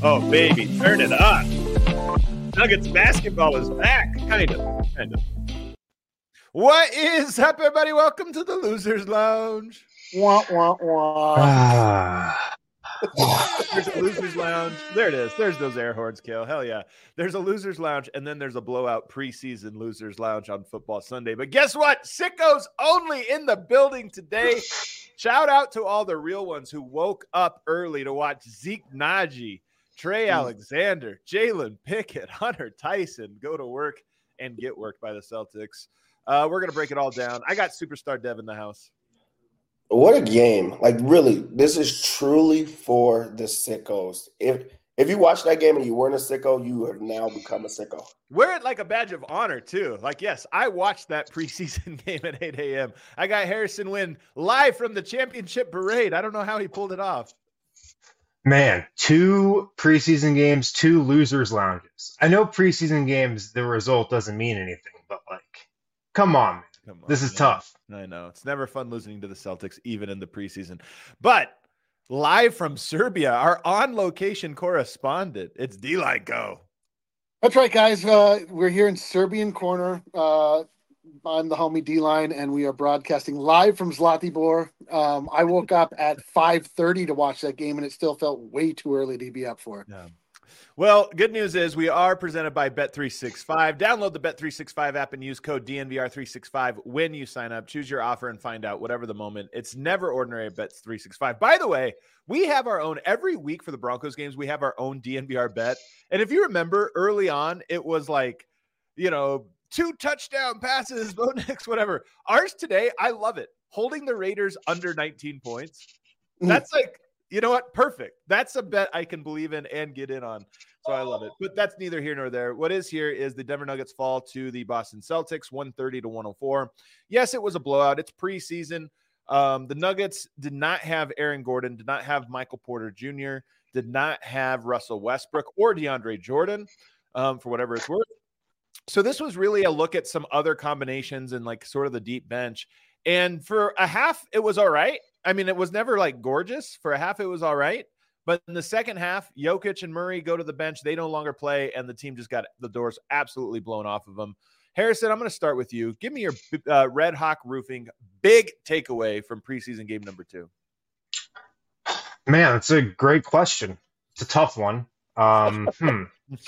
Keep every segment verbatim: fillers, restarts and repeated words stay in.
Oh, baby, turn it up. Nuggets basketball is back. Kind of. Kind of. What is up, everybody? Welcome to the Losers Lounge. Wah, wah, wah. Ah. There's a Losers Lounge. There it is. There's those air horns, Kale. Hell yeah. There's a Losers Lounge, and then there's a blowout preseason Losers Lounge on Football Sunday. But guess what? Sickos only in the building today. Shout out to all the real ones who woke up early to watch Zeke Naji, Trey Alexander, Jalen Pickett, Hunter Tyson go to work and get worked by the Celtics. Uh, we're going to break it all down. I got Superstar Dev in the house. What a game. Like, really, this is truly for the sickos. If if you watch that game and you weren't a sicko, you have now become a sicko. Wear it like a badge of honor, too. Like, yes, I watched that preseason game at eight a.m. I got Harrison Wynn live from the championship parade. I don't know how he pulled it off. Man, two preseason games, two losers lounges. I know preseason games, the result doesn't mean anything, but like, come on, man. Come on, this is man. tough. I know. It's never fun losing to the Celtics, even in the preseason. But live from Serbia, our on-location correspondent, it's D-Line Go. That's right, guys. Uh, we're here in Serbian Corner. Uh, I'm the homie D-Line, and we are broadcasting live from Zlatibor. Um, I woke up at five thirty to watch that game, and it still felt way too early to be up for it. Yeah. Well, good news is we are presented by Bet three sixty-five. Download the Bet three sixty-five app and use code D N V R three sixty-five when you sign up. Choose your offer and find out whatever the moment. It's never ordinary at Bet three sixty-five. By the way, we have our own every week for the Broncos games. We have our own D N V R bet. And if you remember early on, it was like, you know, two touchdown passes, Bo Nix, whatever. Ours today, I love it. Holding the Raiders under nineteen points. That's like, you know what? Perfect. That's a bet I can believe in and get in on. So I love it. But that's neither here nor there. What is here is the Denver Nuggets fall to the Boston Celtics, one thirty to one oh four. Yes, it was a blowout. It's preseason. Um, the Nuggets did not have Aaron Gordon, did not have Michael Porter Junior, did not have Russell Westbrook or DeAndre Jordan, um, for whatever it's worth. So this was really a look at some other combinations and like sort of the deep bench. And for a half, it was all right. I mean, it was never like gorgeous. For a half, it was all right. But in the second half, Jokic and Murray go to the bench. They no longer play, and the team just got the doors absolutely blown off of them. Harrison, I'm going to start with you. Give me your uh, Red Hawk Roofing big takeaway from preseason game number two. Man, it's a great question. It's a tough one. Um, hmm.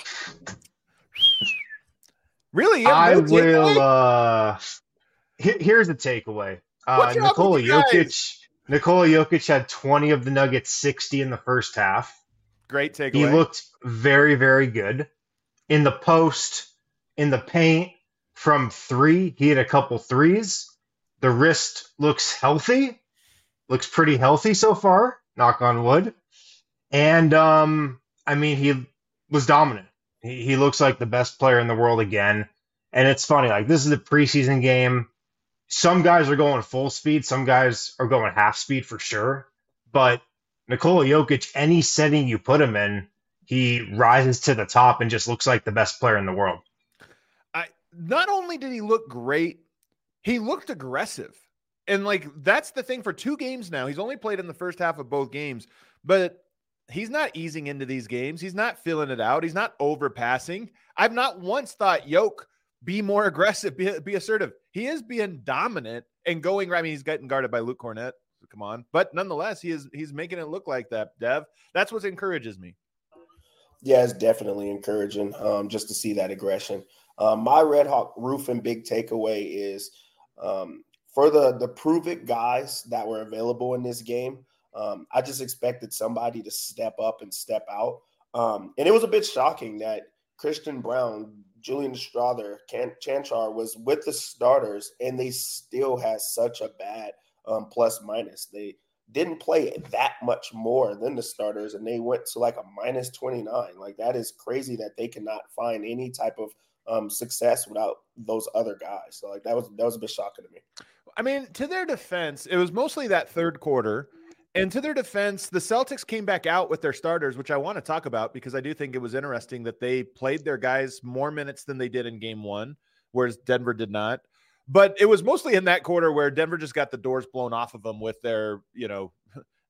Really? I no will. Uh, he- here's the takeaway. Uh, Nikola Jokic. Nikola Jokic had twenty of the Nuggets, sixty in the first half. Great takeaway. He looked very, very good. In the post, in the paint, from three, he had a couple threes. The wrist looks healthy. Looks pretty healthy so far, knock on wood. And, um, I mean, he was dominant. He, he looks like the best player in the world again. And it's funny, like, this is a preseason game. Some guys are going full speed. Some guys are going half speed for sure. But Nikola Jokic, any setting you put him in, he rises to the top and just looks like the best player in the world. I not only did he look great, he looked aggressive. And like that's the thing for two games now. He's only played in the first half of both games, but he's not easing into these games. He's not filling it out. He's not overpassing. I've not once thought Yoke be more aggressive, be, be assertive. He is being dominant and going right. I mean, he's getting guarded by Luke Cornett. So come on. But nonetheless, he is he's making it look like that, Dev. That's what encourages me. Yeah, it's definitely encouraging um, just to see that aggression. Um, my Red Hawk Roofing big takeaway is um, for the, the prove-it guys that were available in this game, um, I just expected somebody to step up and step out. Um, and it was a bit shocking that Christian Brown, Julian Strawther, Can- Chanchar was with the starters, and they still had such a bad um, plus minus. They didn't play that much more than the starters, and they went to like a minus twenty-nine. Like, that is crazy that they cannot find any type of um, success without those other guys. So, like, that was that was a bit shocking to me. I mean, to their defense, it was mostly that third quarter. And to their defense, the Celtics came back out with their starters, which I want to talk about because I do think it was interesting that they played their guys more minutes than they did in game one, whereas Denver did not. But it was mostly in that quarter where Denver just got the doors blown off of them with their, you know,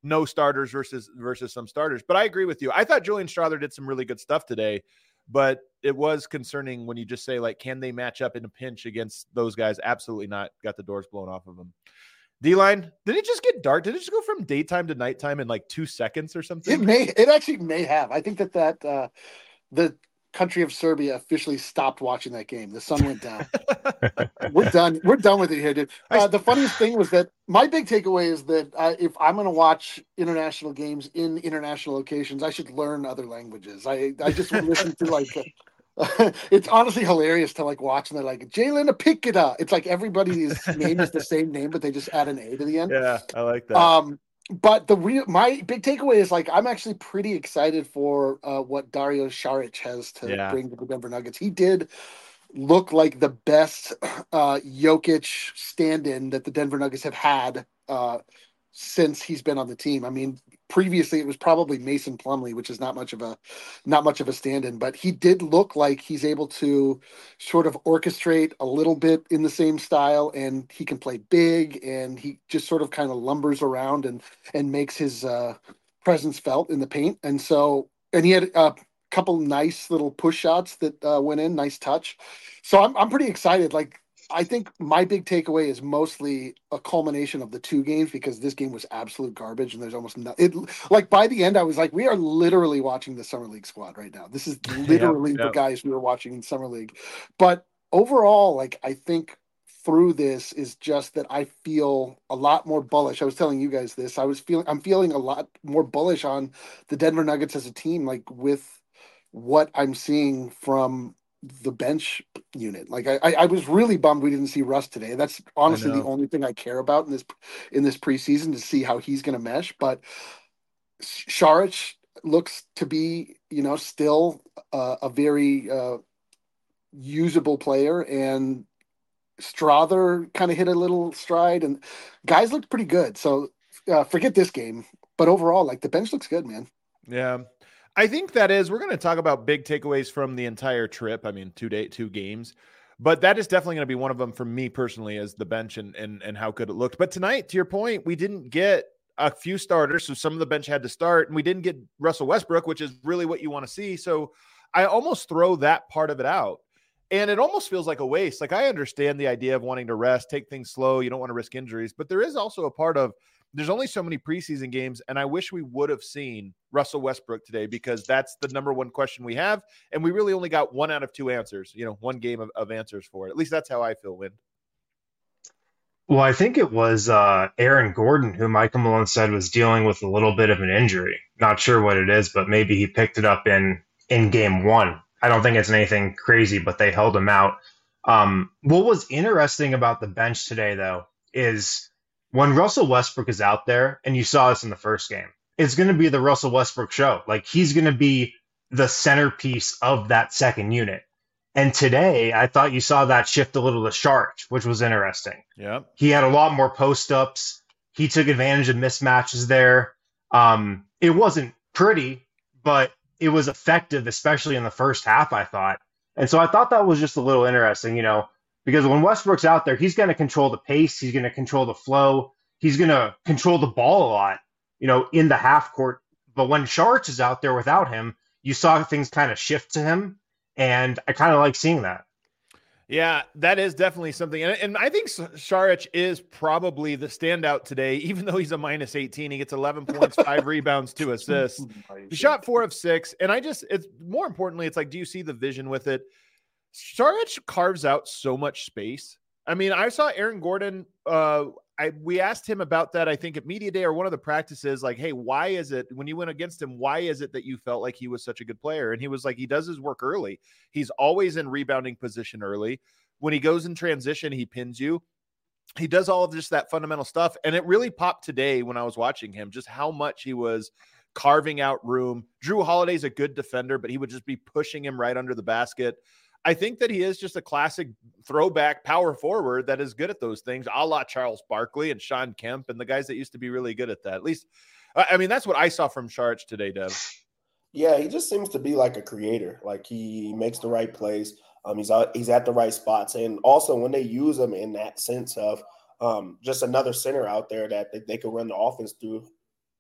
no starters versus versus some starters. But I agree with you. I thought Julian Strawther did some really good stuff today, but it was concerning when you just say, like, can they match up in a pinch against those guys? Absolutely not. Got the doors blown off of them. D-line, did it just get dark? Did it just go from daytime to nighttime in like two seconds or something? It may. It actually may have. I think that that uh, the country of Serbia officially stopped watching that game. The sun went down. We're done. We're done with it here, dude. Uh, the funniest thing was that my big takeaway is that uh, if I'm going to watch international games in international locations, I should learn other languages. I I just would listen to like. Uh, it's honestly hilarious to like watch and they're like Jalen Apikita. It's like everybody's name is the same name, but they just add an A to the end. Yeah, I like that. Um, but the real my big takeaway is like I'm actually pretty excited for uh, what Dario Saric has to Yeah. bring to the Denver Nuggets. He did look like the best uh, Jokic stand-in that the Denver Nuggets have had uh, since he's been on the team. I mean, previously it was probably Mason Plumlee, which is not much of a not much of a stand-in, but he did look like he's able to sort of orchestrate a little bit in the same style, and he can play big, and he just sort of kind of lumbers around and and makes his uh, presence felt in the paint. And so, and he had a couple nice little push shots that uh, went in, nice touch. So I'm I'm pretty excited. Like, I think my big takeaway is mostly a culmination of the two games, because this game was absolute garbage and there's almost no it like by the end I was like, we are literally watching the summer league squad right now. This is literally Yep, the yep. guys we were watching in summer league. But overall, like, I think through this is just that I feel a lot more bullish. I was telling you guys this. I was feeling I'm feeling a lot more bullish on the Denver Nuggets as a team, like with what I'm seeing from the bench unit. Like I, I was really bummed we didn't see Russ today. That's honestly the know. only thing I care about in this in this preseason, to see how he's going to mesh. But Saric looks to be, you know, still uh, a very uh, usable player, and Strawther kind of hit a little stride, and guys looked pretty good. So uh, forget this game, but overall, like, the bench looks good, man. Yeah. I think that is, we're going to talk about big takeaways from the entire trip. I mean, two day, two games, but that is definitely going to be one of them for me personally, as the bench and, and, and how good it looked. But tonight, to your point, we didn't get a few starters. So some of the bench had to start, and we didn't get Russell Westbrook, which is really what you want to see. So I almost throw that part of it out, and it almost feels like a waste. Like, I understand the idea of wanting to rest, take things slow. You don't want to risk injuries, but there is also a part of, there's only so many preseason games, and I wish we would have seen Russell Westbrook today, because that's the number one question we have, and we really only got one out of two answers, you know, one game of, of answers for it. At least that's how I feel, Win. Well, I think it was uh, Aaron Gordon who Michael Malone said was dealing with a little bit of an injury. Not sure what it is, but maybe he picked it up in, in game one. I don't think it's anything crazy, but they held him out. Um, what was interesting about the bench today, though, is when Russell Westbrook is out there, and you saw this in the first game, it's going to be the Russell Westbrook show. Like, he's going to be the centerpiece of that second unit. And today, I thought you saw that shift a little to Saric, which was interesting. Yeah. He had a lot more post-ups. He took advantage of mismatches there. Um, it wasn't pretty, but it was effective, especially in the first half, I thought. And so I thought that was just a little interesting, you know, because when Westbrook's out there, he's going to control the pace. He's going to control the flow. He's going to control the ball a lot, you know, in the half court. But when Saric is out there without him, you saw things kind of shift to him. And I kind of like seeing that. Yeah, that is definitely something. And, and I think Saric is probably the standout today, even though he's a minus eighteen. He gets eleven points, five rebounds, two assists. He shot four of six. And I just, it's more importantly, it's like, do you see the vision with it? Saric carves out so much space. I mean, I saw Aaron Gordon. Uh, I we asked him about that, I think, at media day or one of the practices, like, hey, why is it when you went against him, why is it that you felt like he was such a good player? And he was like, he does his work early. He's always in rebounding position early. When he goes in transition, he pins you. He does all of just that fundamental stuff. And it really popped today when I was watching him, just how much he was carving out room. Drew Holiday's a good defender, but he would just be pushing him right under the basket. I think that he is just a classic throwback power forward that is good at those things, a la Charles Barkley and Sean Kemp and the guys that used to be really good at that. At least, I mean, that's what I saw from Saric today, Dev. Yeah, he just seems to be like a creator. Like, he makes the right plays. Um, he's out, he's at the right spots, and also when they use him in that sense of um, just another center out there that they, they could run the offense through.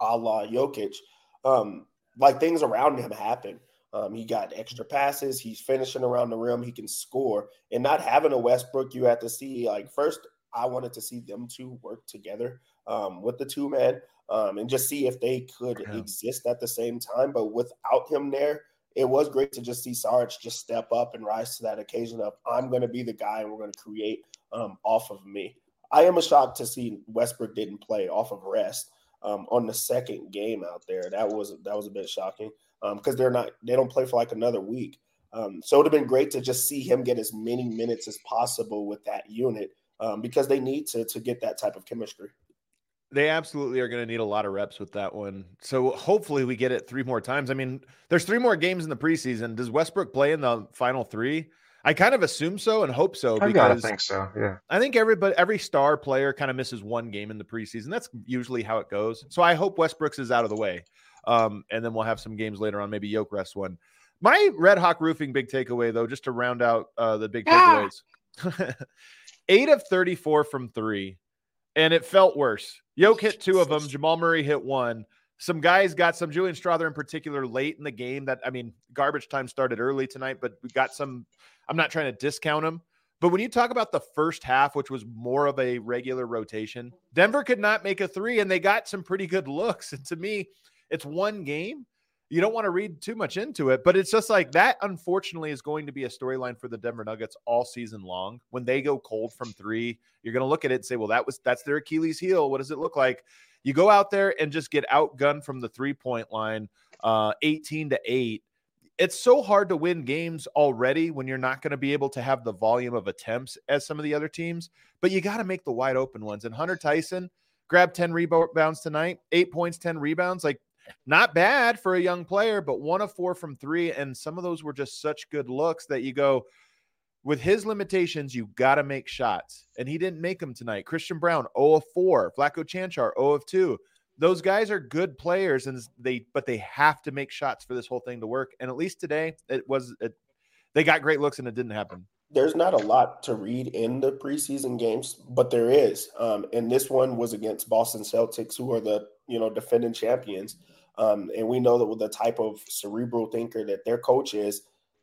a la Jokic, um, like things around him happen. Um, he got extra passes. He's finishing around the rim. He can score. And not having a Westbrook, you have to see, like, first, I wanted to see them two work together um, with the two man um, and just see if they could Yeah. exist at the same time. But without him there, it was great to just see Sarge just step up and rise to that occasion of, I'm going to be the guy and we're going to create um, off of me. I am a shock to see Westbrook didn't play off of rest um, on the second game out there. That was that was a bit shocking because um, they're not they don't play for like another week. Um, so it would have been great to just see him get as many minutes as possible with that unit um, because they need to to get that type of chemistry. They absolutely are going to need a lot of reps with that one. So hopefully we get it three more times. I mean, there's three more games in the preseason. Does Westbrook play in the final three? I kind of assume so and hope so. I gotta think so. Yeah. I think everybody, every star player kind of misses one game in the preseason. That's usually how it goes. So I hope Westbrook's is out of the way. Um, and then we'll have some games later on, maybe Yoke rest one. My Red Hawk Roofing big takeaway, though, just to round out uh, the big Ah! takeaways. eight of thirty-four from three. And it felt worse. Yoke hit two of them. Jamal Murray hit one. Some guys got some, Julian Strother in particular, late in the game that, I mean, garbage time started early tonight, but we got some, I'm not trying to discount them. But when you talk about the first half, which was more of a regular rotation, Denver could not make a three, and they got some pretty good looks. And to me, it's one game. You don't want to read too much into it, but it's just like that, unfortunately, is going to be a storyline for the Denver Nuggets all season long. When they go cold from three, you're going to look at it and say, well, that was that's their Achilles heel. What does it look like? You go out there and just get outgunned from the three-point line, uh, eighteen to eight. It's so hard to win games already when you're not going to be able to have the volume of attempts as some of the other teams, but you got to make the wide open ones. And Hunter Tyson grabbed ten rebounds tonight, eight points, ten rebounds. Like, not bad for a young player, but one of four from three. And some of those were just such good looks that you go, with his limitations, you got to make shots. And he didn't make them tonight. Christian Brown, zero of four. Vlatko Čančar, zero of two. Those guys are good players, and they, but they have to make shots for this whole thing to work. And at least today, it was, it, they got great looks and it didn't happen. There's not a lot to read in the preseason games, but there is. Um, and this one was against Boston Celtics, who are the, you know, defending champions. Um, and we know that with the type of cerebral thinker that their coach is,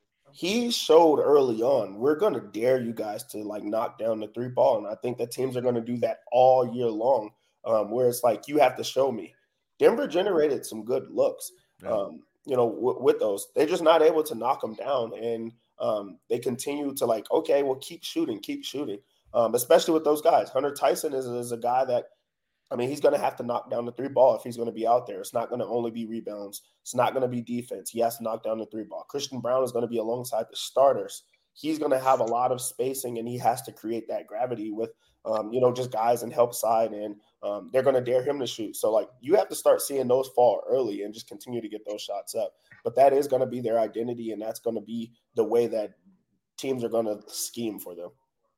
he showed early on, we're going to dare you guys to like knock down the three ball. And I think that teams are going to do that all year long, um, where it's like, you have to show me. Denver generated some good looks, Yeah. um, you know, w- with those. They're just not able to knock them down. And um, they continue to like, okay, well, keep shooting, keep shooting, um, especially with those guys. Hunter Tyson is, is a guy that, I mean, he's going to have to knock down the three ball if he's going to be out there. It's not going to only be rebounds. It's not going to be defense. He has to knock down the three ball. Christian Brown is going to be alongside the starters. He's going to have a lot of spacing, and he has to create that gravity with, um, you know, just guys in help side, and um, they're going to dare him to shoot. So, like, you have to start seeing those fall early and just continue to get those shots up. But that is going to be their identity, and that's going to be the way that teams are going to scheme for them.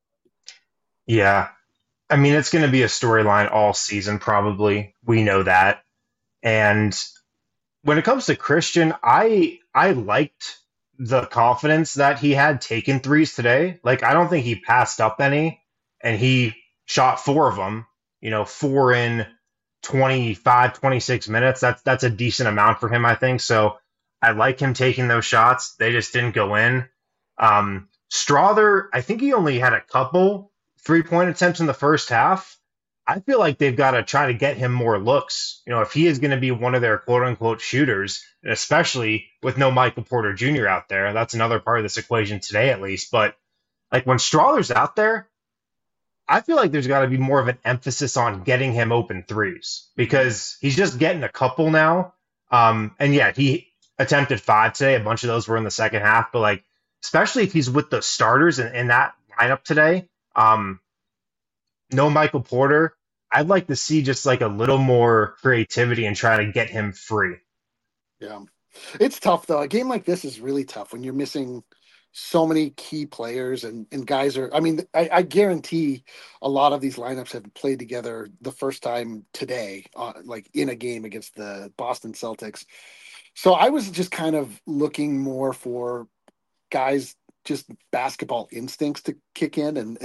Yeah. I mean, it's going to be a storyline all season, probably. We know that. And when it comes to Christian, I I liked the confidence that he had taking threes today. Like, I don't think he passed up any, and he shot four of them, you know, four in twenty-five, twenty-six minutes. That's, that's a decent amount for him, I think. So I like him taking those shots. They just didn't go in. Um, Strother, I think he only had a couple three-point attempts in the first half. I feel like they've got to try to get him more looks. You know, if he is going to be one of their quote-unquote shooters, and especially with no Michael Porter Junior out there, that's another part of this equation today at least. But, like, when Strother's out there, I feel like there's got to be more of an emphasis on getting him open threes because he's just getting a couple now. Um, and, yeah, he attempted five today. A bunch of those were in the second half. But, like, especially if he's with the starters in, in that lineup today, Um, no Michael Porter, I'd like to see just like a little more creativity and try to get him free. Yeah. It's tough, though. A game like this is really tough when you're missing so many key players and, and guys are – I mean, I, I guarantee a lot of these lineups have played together the first time today, uh, like in a game against the Boston Celtics. So I was just kind of looking more for guys – just basketball instincts to kick in and, and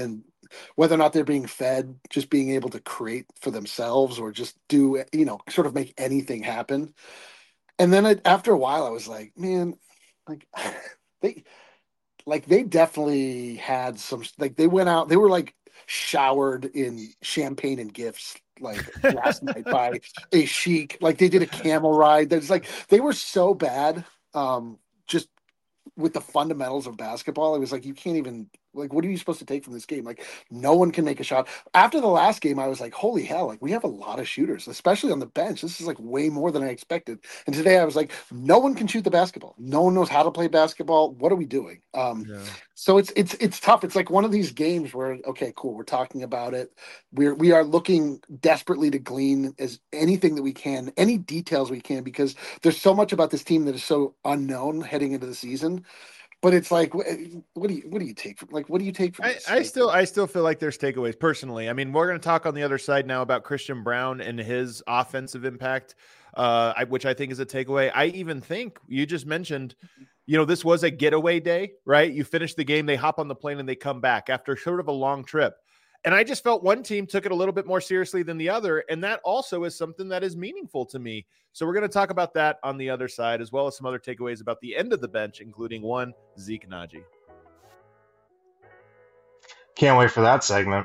whether or not they're being fed, just being able to create for themselves or just do, you know, sort of make anything happen. And then I, after a while, I was like, man, like they, like they definitely had some, like they went out, they were like showered in champagne and gifts like last night by a Sheik. Like they did a camel ride. That's like, they were so bad. Um, just with the fundamentals of basketball, it was like, you can't even, like, what are you supposed to take from this game? Like, no one can make a shot. After the last game, I was like, holy hell, like, we have a lot of shooters, especially on the bench. This is like way more than I expected. And today I was like, no one can shoot the basketball. No one knows how to play basketball. What are we doing? Um, yeah. So it's it's it's tough. It's like one of these games where, okay, cool, we're talking about it. We're we are looking desperately to glean as anything that we can, any details we can, because there's so much about this team that is so unknown heading into the season. But it's like, what do you what do you take from like what do you take from I, this? I still I still feel like there's takeaways personally. I mean, we're going to talk on the other side now about Christian Braun and his offensive impact, uh, I, which I think is a takeaway. I even think you just mentioned, you know, this was a getaway day, right? You finish the game, they hop on the plane and they come back after sort of a long trip. And I just felt one team took it a little bit more seriously than the other. And that also is something that is meaningful to me. So we're going to talk about that on the other side, as well as some other takeaways about the end of the bench, including one, Zeke Nnaji. Can't wait for that segment.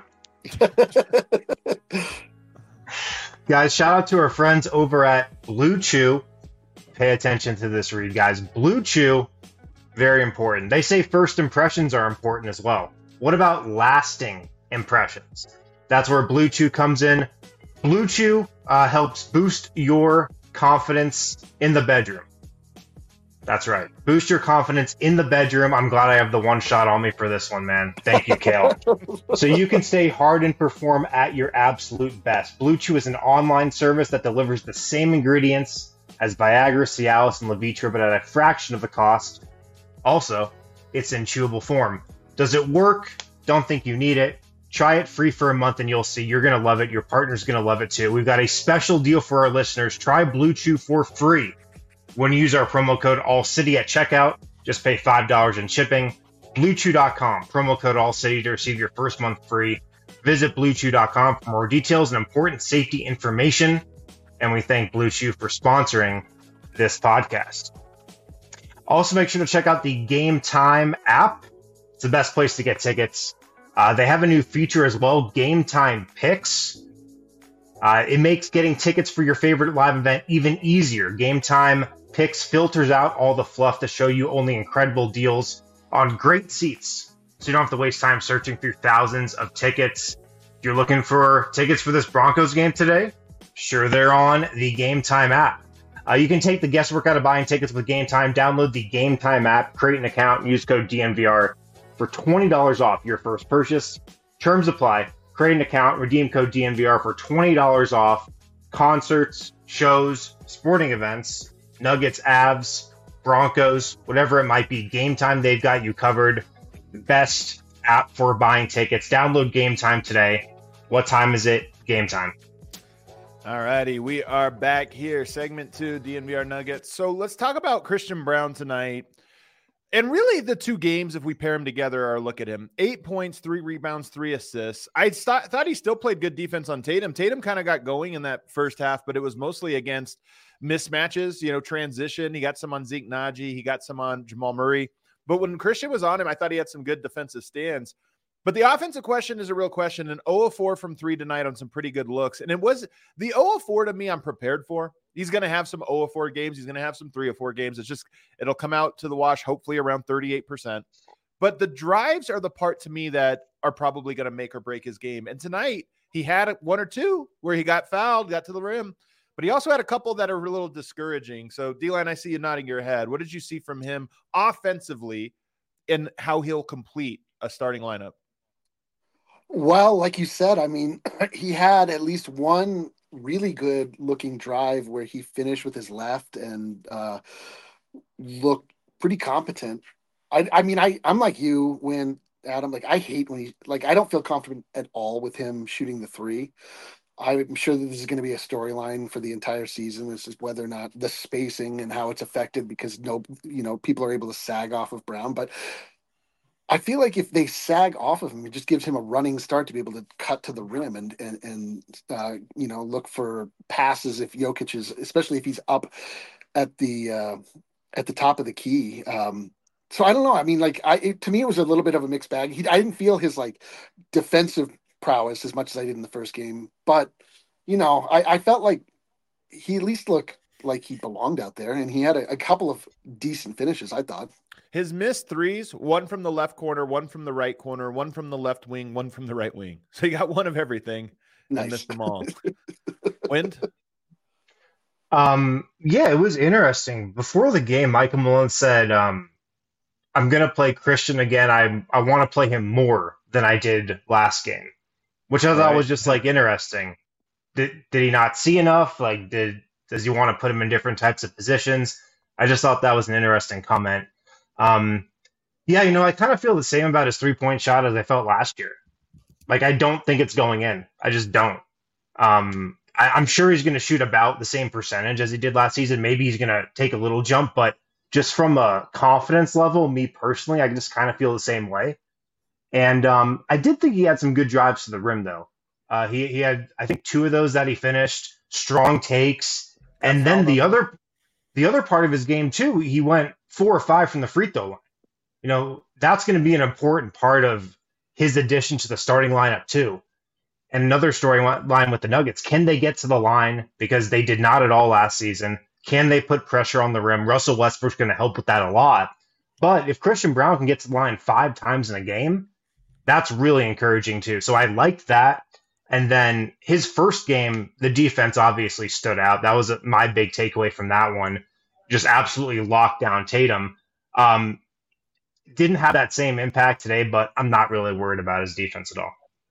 Guys, shout out to our friends over at Blue Chew. Pay attention to this read, guys. Blue Chew, very important. They say first impressions are important as well. What about lasting impressions? That's where Blue Chew comes in. Blue Chew uh, helps boost your confidence in the bedroom. That's right. Boost your confidence in the bedroom. I'm glad I have the one shot on me for this one, man. Thank you, Kale. So you can stay hard and perform at your absolute best. Blue Chew is an online service that delivers the same ingredients as Viagra, Cialis, and Levitra, but at a fraction of the cost. Also, it's in chewable form. Does it work? Don't think you need it. Try it free for a month and you'll see. You're going to love it. Your partner's going to love it too. We've got a special deal for our listeners. Try Blue Chew for free when you use our promo code ALLCITY at checkout. Just pay five dollars in shipping. blue chew dot com, promo code ALLCITY to receive your first month free. Visit blue chew dot com for more details and important safety information. And we thank Blue Chew for sponsoring this podcast. Also, make sure to check out the Game Time app. It's the best place to get tickets. Uh, they have a new feature as well, Game Time Picks. Uh, it makes getting tickets for your favorite live event even easier. Game Time Picks filters out all the fluff to show you only incredible deals on great seats. So you don't have to waste time searching through thousands of tickets. If you're looking for tickets for this Broncos game today, sure, they're on the Game Time app. Uh, you can take the guesswork out of buying tickets with Game Time. Download the Game Time app, create an account, and use code D N V R for twenty dollars off your first purchase. Terms apply. Create an account, redeem code D N V R for twenty dollars off concerts, shows, sporting events, Nuggets, Avs, Broncos, whatever it might be. Game Time, they've got you covered. Best app for buying tickets. Download Game Time today. What time is it? Game Time. All righty, we are back here. Segment two, D N V R Nuggets. So let's talk about Christian Braun tonight. And really, the two games, if we pair them together, are look at him. Eight points, three rebounds, three assists. I st- thought he still played good defense on Tatum. Tatum kind of got going in that first half, but it was mostly against mismatches, you know, transition. He got some on Zeke Nnaji. He got some on Jamal Murray. But when Christian was on him, I thought he had some good defensive stands. But the offensive question is a real question. An zero of four from three tonight on some pretty good looks. And it was the zero of four to me, I'm prepared for. He's going to have some zero of four games. He's going to have some three of four games. It's just, it'll come out to the wash, hopefully around thirty-eight percent. But the drives are the part to me that are probably going to make or break his game. And tonight he had one or two where he got fouled, got to the rim, but he also had a couple that are a little discouraging. So D-Line, I see you nodding your head. What did you see from him offensively and how he'll complete a starting lineup? Well, like you said, I mean, he had at least one really good looking drive where he finished with his left and uh, looked pretty competent. I, I mean, I, I'm like you when Adam, like I hate when he, like, I don't feel confident at all with him shooting the three. I'm sure that this is going to be a storyline for the entire season. This is whether or not the spacing and how it's affected because no, you know, people are able to sag off of Brown, but I feel like if they sag off of him, it just gives him a running start to be able to cut to the rim and and and uh, you know, look for passes if Jokic is, especially if he's up at the uh, at the top of the key. Um, so I don't know. I mean, like I it, to me, it was a little bit of a mixed bag. He, I didn't feel his like defensive prowess as much as I did in the first game, but you know, I, I felt like he at least looked like he belonged out there, and he had a, a couple of decent finishes, I thought. His missed threes, one from the left corner, one from the right corner, one from the left wing, one from the right wing. So you got one of everything. Nice. And missed them all. Wind? Um, yeah, it was interesting. Before the game, Michael Malone said, um, I'm going to play Christian again. I I want to play him more than I did last game, which I thought Right. was just like interesting. Did, did he not see enough? Like, did does he want to put him in different types of positions? I just thought that was an interesting comment. Um, yeah, you know, I kind of feel the same about his three-point shot as I felt last year. Like, I don't think it's going in. I just don't. Um, I, I'm sure he's going to shoot about the same percentage as he did last season. Maybe he's going to take a little jump, but just from a confidence level, me personally, I just kind of feel the same way. And um, I did think he had some good drives to the rim, though. Uh, he, he had, I think, two of those that he finished, strong takes. And then the other the other part of his game, too, he went four or five from the free throw line. You know, that's going to be an important part of his addition to the starting lineup, too. And another storyline with the Nuggets, can they get to the line? Because they did not at all last season. Can they put pressure on the rim? Russell Westbrook's going to help with that a lot. But if Christian Brown can get to the line five times in a game, that's really encouraging, too. So I liked that. And then his first game, the defense obviously stood out. That was my big takeaway from that one. Just absolutely locked down Tatum. Um, didn't have that same impact today, but I'm not really worried about his defense at all.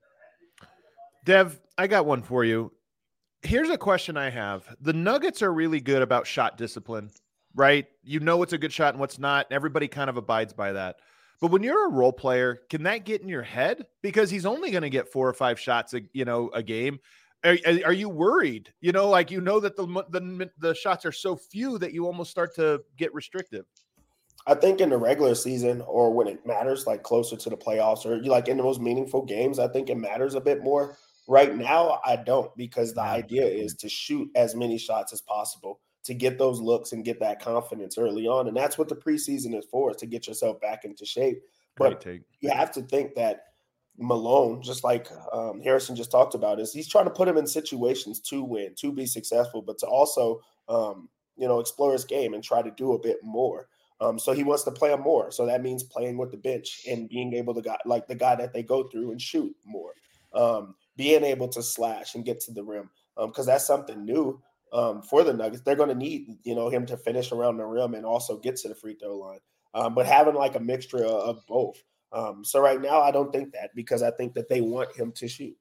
Dev, I got one for you. Here's a question I have. The Nuggets are really good about shot discipline, right? You know what's a good shot and what's not. Everybody kind of abides by that. But when you're a role player, can that get in your head? Because he's only going to get four or five shots, a, you know, a game. Are, are you worried? You know, like, you know that the, the the shots are so few that you almost start to get restrictive. I think in the regular season, or when it matters, like closer to the playoffs, or like in the most meaningful games, I think it matters a bit more. Right now, I don't, because the Yeah. idea is to shoot as many shots as possible, to get those looks and get that confidence early on. And that's what the preseason is for, is to get yourself back into shape. Great But take. you have to think that Malone, just like um, Harrison just talked about, is he's trying to put him in situations to win, to be successful, but to also, um, you know, explore his game and try to do a bit more. Um, so he wants to play him more. So that means playing with the bench and being able to, got, like the guy that they go through and shoot more. Um, being able to slash and get to the rim, because um, that's something new um, for the Nuggets. They're going to need, you know, him to finish around the rim and also get to the free throw line. Um, but having like a mixture of both. Um, so right now, I don't think that, because I think that they want him to shoot.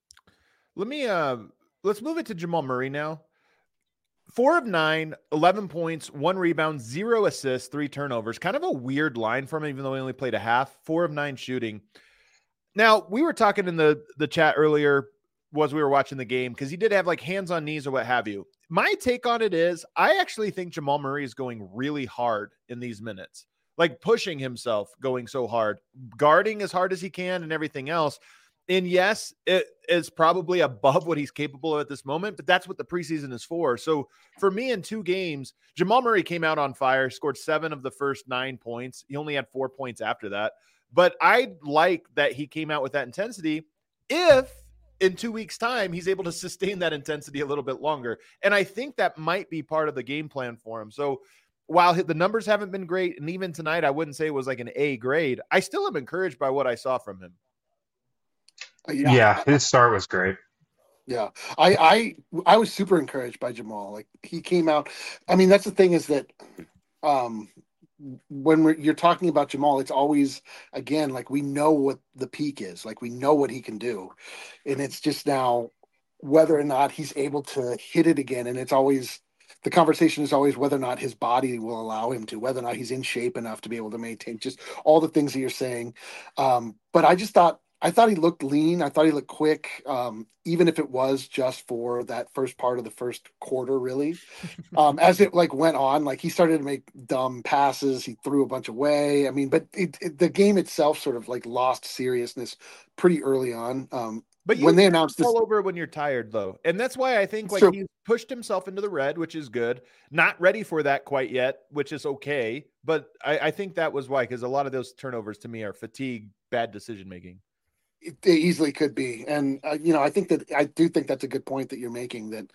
Let me uh, let's move it to Jamal Murray now. Four of nine, eleven points, one rebound, zero assists, three turnovers. Kind of a weird line from him, even though he only played a half. Four of nine shooting. Now, we were talking in the, the chat earlier was we were watching the game, because he did have like hands on knees or what have you. My take on it is I actually think Jamal Murray is going really hard in these minutes, like pushing himself, going so hard, guarding as hard as he can and everything else. And yes, it is probably above what he's capable of at this moment, but that's what the preseason is for. So for me, in two games, Jamal Murray came out on fire, scored seven of the first nine points. He only had four points after that. But I like that he came out with that intensity if in two weeks' time he's able to sustain that intensity a little bit longer. And I think that might be part of the game plan for him. So while the numbers haven't been great, and even tonight I wouldn't say it was like an A grade, I still am encouraged by what I saw from him. Yeah, yeah his start was great. Yeah, I, I I was super encouraged by Jamal. Like, he came out. I mean, that's the thing, is that um, when we're, you're talking about Jamal, it's always, again, like, we know what the peak is. Like, we know what he can do. And it's just now whether or not he's able to hit it again. And it's always, the conversation is always whether or not his body will allow him to, whether or not he's in shape enough to be able to maintain just all the things that you're saying. Um, but I just thought I thought he looked lean. I thought he looked quick, um, even if it was just for that first part of the first quarter, really. Um, as it like went on, like he started to make dumb passes. He threw a bunch away. I mean, but it, it, the game itself sort of like lost seriousness pretty early on. Um, But you when they announced this, all over when you're tired, though, and that's why I think like true. he pushed himself into the red, which is good. Not ready for that quite yet, which is okay. But I, I think that was why, because a lot of those turnovers to me are fatigue, bad decision making. It, it easily could be, and uh, you know, I think that I do think that's a good point that you're making. That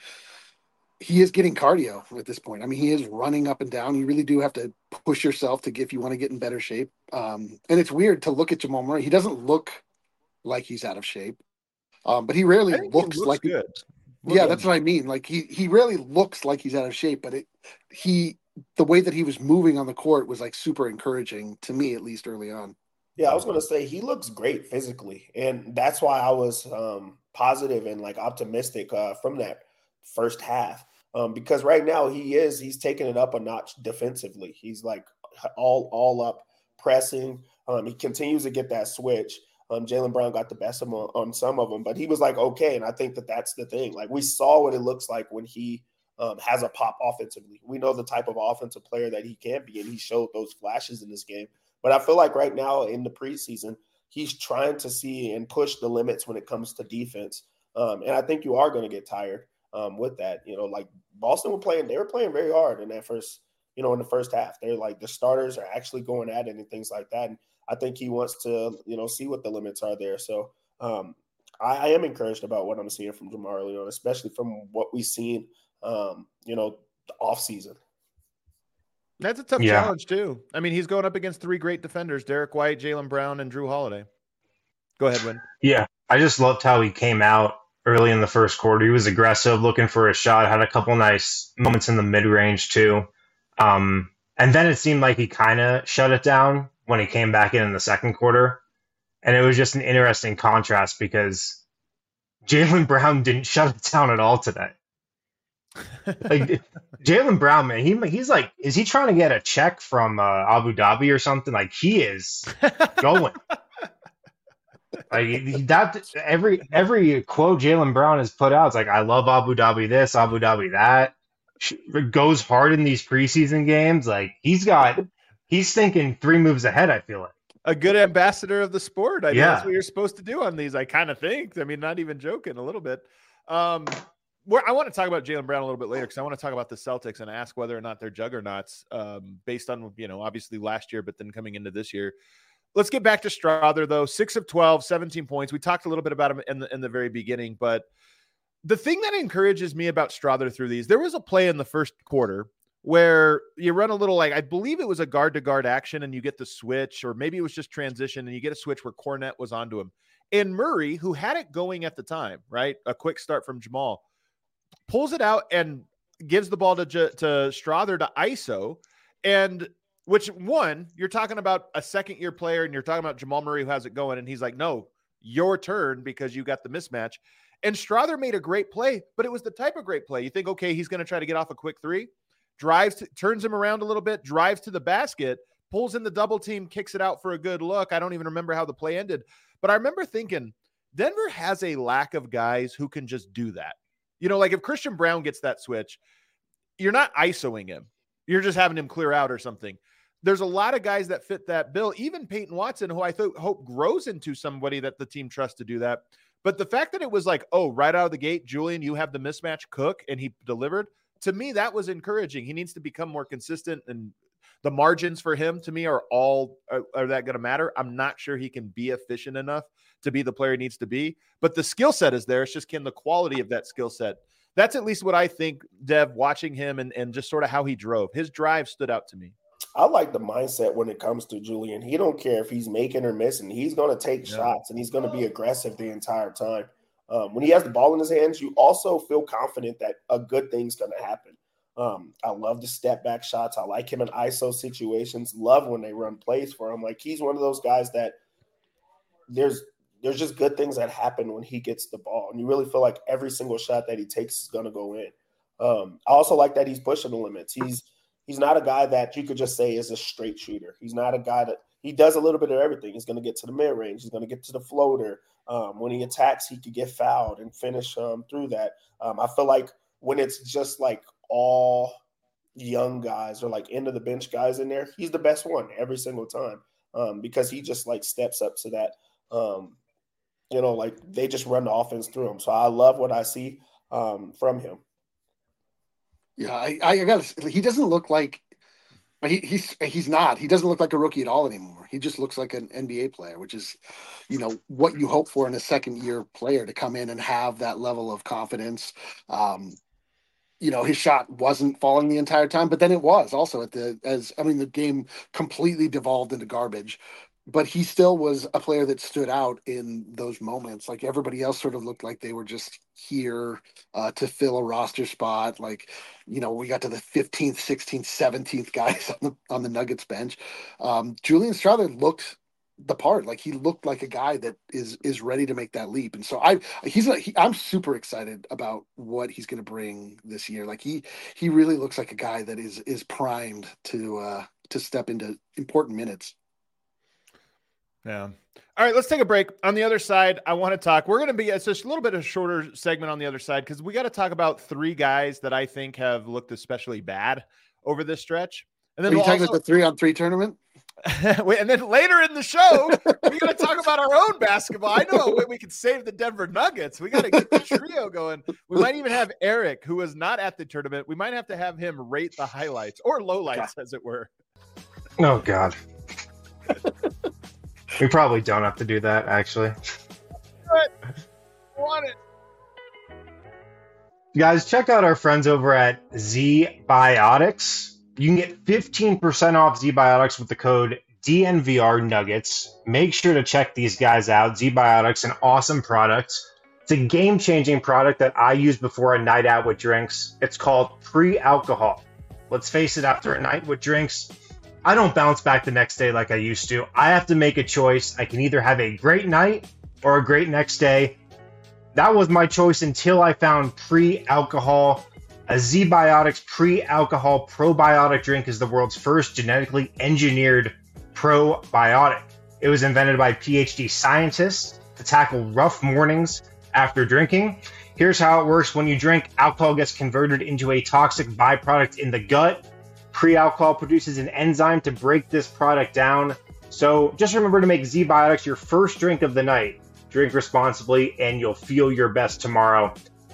he is getting cardio at this point. I mean, he is running up and down. You really do have to push yourself to get if you want to get in better shape. Um, and it's weird to look at Jamal Murray. He doesn't look like he's out of shape. Um, but he rarely I think looks, he looks like good. Yeah, Look that's good. what I mean. Like he he rarely looks like he's out of shape, but it he the way that he was moving on the court was like super encouraging to me, at least early on. Yeah, I was gonna say he looks great physically, and that's why I was um, positive and like optimistic uh, from that first half. Um, because right now he is he's taking it up a notch defensively. He's like all all up pressing. Um, he continues to get that switch. Um, Jaylen Brown got the best of him on, on some of them, but he was like okay, and I think that that's the thing. Like we saw what it looks like when he um, has a pop offensively. We know the type of offensive player that he can be, and he showed those flashes in this game. But I feel like right now in the preseason, he's trying to see and push the limits when it comes to defense. Um, and I think you are going to get tired um, with that. You know, like Boston were playing, they were playing very hard in that first, you know, in the first half. They're like the starters are actually going at it and things like that. And I think he wants to, you know, see what the limits are there. So um, I, I am encouraged about what I'm seeing from Jamar Leon, especially from what we've seen, um, you know, the offseason. That's a tough Yeah. challenge too. I mean, he's going up against three great defenders: Derek White, Jaylen Brown, and Drew Holiday. Go ahead, Win. Yeah, I just loved how he came out early in the first quarter. He was aggressive, looking for a shot, had a couple nice moments in the mid-range too. Um, and then it seemed like he kind of shut it down when he came back in in the second quarter. And it was just an interesting contrast because Jaylen Brown didn't shut it down at all today. Like Jaylen Brown, man, he he's like, is he trying to get a check from uh, Abu Dhabi or something? Like he is going. Like that, every every quote Jaylen Brown has put out, it's like, I love Abu Dhabi this, Abu Dhabi that. Goes hard in these preseason games. Like he's got, he's thinking three moves ahead. I feel like A good ambassador of the sport. I mean, Yeah. that's what you're supposed to do on these. I kind of think. I mean, not even joking a little bit. Um, where I want to talk about Jaylen Brown a little bit later because I want to talk about the Celtics and ask whether or not they're juggernauts um, based on, you know, obviously last year, but then coming into this year. Let's get back to Strawther, though. six of twelve, seventeen points. We talked a little bit about him in the, in the very beginning, but the thing that encourages me about Strawther through these, there was a play in the first quarter where you run a little, like, I believe it was a guard-to-guard action, and you get the switch, or maybe it was just transition, and you get a switch where Cornette was onto him. And Murray, who had it going at the time, right, a quick start from Jamal, pulls it out and gives the ball to, to Strawther to I S O, and which, one, you're talking about a second-year player, and you're talking about Jamal Murray who has it going, and he's like, no, your turn because you got the mismatch. And Strawther made a great play, but it was the type of great play. You think, okay, he's going to try to get off a quick three, drives, to, turns him around a little bit, drives to the basket, pulls in the double team, kicks it out for a good look. I don't even remember how the play ended, but I remember thinking Denver has a lack of guys who can just do that. You know, like if Christian Brown gets that switch, you're not ISOing him. You're just having him clear out or something. There's a lot of guys that fit that bill, even Peyton Watson, who I th- hope grows into somebody that the team trusts to do that. But the fact that it was like, oh, right out of the gate, Julian, you have the mismatch, cook, and he delivered, to me, that was encouraging. He needs to become more consistent, and the margins for him, to me, are all are, are that going to matter? I'm not sure he can be efficient enough to be the player he needs to be, but the skill set is there. It's just, can the quality of that skill set? That's at least what I think, Dev, watching him and, and just sort of how he drove. His drive stood out to me. I like the mindset when it comes to Julian. He don't care if he's making or missing. He's going to take Yeah. shots, and he's going to be aggressive the entire time. Um, when he has the ball in his hands, you also feel confident that a good thing's going to happen. Um, I love the step back shots. I like him in I S O situations. Love when they run plays for him. Like, he's one of those guys that there's there's just good things that happen when he gets the ball, and you really feel like every single shot that he takes is going to go in. Um, I also like that he's pushing the limits. He's He's not a guy that you could just say is a straight shooter. He's not a guy that he does a little bit of everything. He's going to get to the mid range. He's going to get to the floater. Um, when he attacks, he could get fouled and finish um, through that. Um, I feel like when it's just like all young guys or like end of the bench guys in there, he's the best one every single time um, because he just like steps up to that. Um, you know, like they just run the offense through him. So I love what I see um, from him. Yeah, I, I got. He doesn't look like he, he's he's not. He doesn't look like a rookie at all anymore. He just looks like an N B A player, which is, you know, what you hope for in a second year player to come in and have that level of confidence. Um, you know, his shot wasn't falling the entire time, but then it was also at the as I mean, the game completely devolved into garbage. But he still was a player that stood out in those moments. Like everybody else sort of looked like they were just here uh, to fill a roster spot. Like, you know, we got to the fifteenth, sixteenth, seventeenth guys on the, on the Nuggets bench. Um, Julian Strawther looked the part. Like he looked like a guy that is is ready to make that leap. And so I he's a, he, I'm super excited about what he's going to bring this year. Like he he really looks like a guy that is is primed to uh, to step into important minutes. Yeah. All right, let's take a break. On the other side, I want to talk. We're going to be, it's just a little bit of a shorter segment on the other side because we got to talk about three guys that I think have looked especially bad over this stretch. And then Are you we'll talking also, about the three on three tournament? Wait, and then later in the show, we're going to talk about our own basketball. I know a way we can save the Denver Nuggets. We got to get the trio going. We might even have Eric, who was not at the tournament. We might have to have him rate the highlights or lowlights, as it were. Oh, God. We probably don't have to do that, actually. But want it. Guys, check out our friends over at Z Biotics. You can get fifteen percent off Z Biotics with the code D N V R Nuggets. Make sure to check these guys out. Z Biotics, an awesome product. It's a game-changing product that I use before a night out with drinks. It's called pre-alcohol. Let's face it, after a night with drinks, I don't bounce back the next day like I used to. I have to make a choice. I can either have a great night or a great next day. That was my choice until I found pre-alcohol. A Z-Biotics pre-alcohol probiotic drink is the world's first genetically engineered probiotic. It was invented by PhD scientists to tackle rough mornings after drinking. Here's how it works. When you drink, alcohol gets converted into a toxic byproduct in the gut. Pre-alcohol produces an enzyme to break this product down. So just remember to make Z-Biotics your first drink of the night. Drink responsibly and you'll feel your best tomorrow.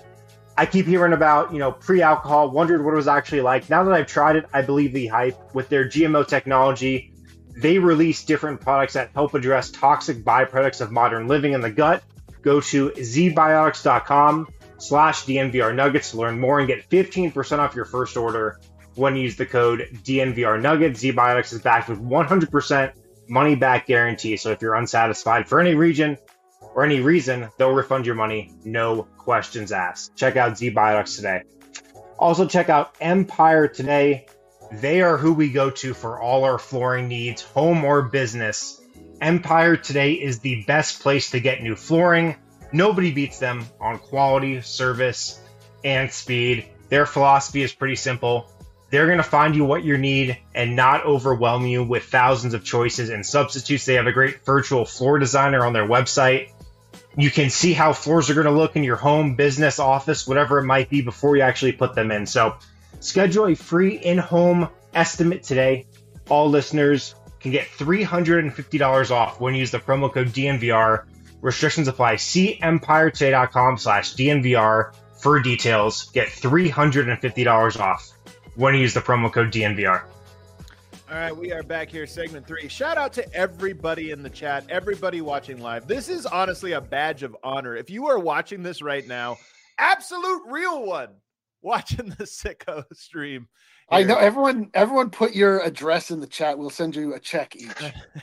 I keep hearing about, you know, pre-alcohol, wondered what it was actually like. Now that I've tried it, I believe the hype. With their G M O technology, they release different products that help address toxic byproducts of modern living in the gut. Go to zbiotics.com slash DNVR Nuggets to learn more and get fifteen percent off your first order. When you use the code D N V R Nuggets, Z-Biotics is backed with one hundred percent money back guarantee. So if you're unsatisfied for any region or any reason, they'll refund your money. No questions asked. Check out Z-Biotics today. Also check out Empire today. They are who we go to for all our flooring needs, home or business. Empire today is the best place to get new flooring. Nobody beats them on quality, service, and speed. Their philosophy is pretty simple. They're going to find you what you need and not overwhelm you with thousands of choices and substitutes. They have a great virtual floor designer on their website. You can see how floors are going to look in your home, business, office, whatever it might be before you actually put them in. So schedule a free in-home estimate today. All listeners can get three hundred fifty dollars off when you use the promo code D N V R. Restrictions apply. See empiretoday.com slash DNVR for details. Get three hundred fifty dollars off when you use the promo code D N V R. All right, we are back here, segment three. Shout out to everybody in the chat, everybody watching live. This is honestly a badge of honor. If you are watching this right now, absolute real one, watching the Sicko stream. Here. I know everyone. Everyone, put your address in the chat. We'll send you a check each.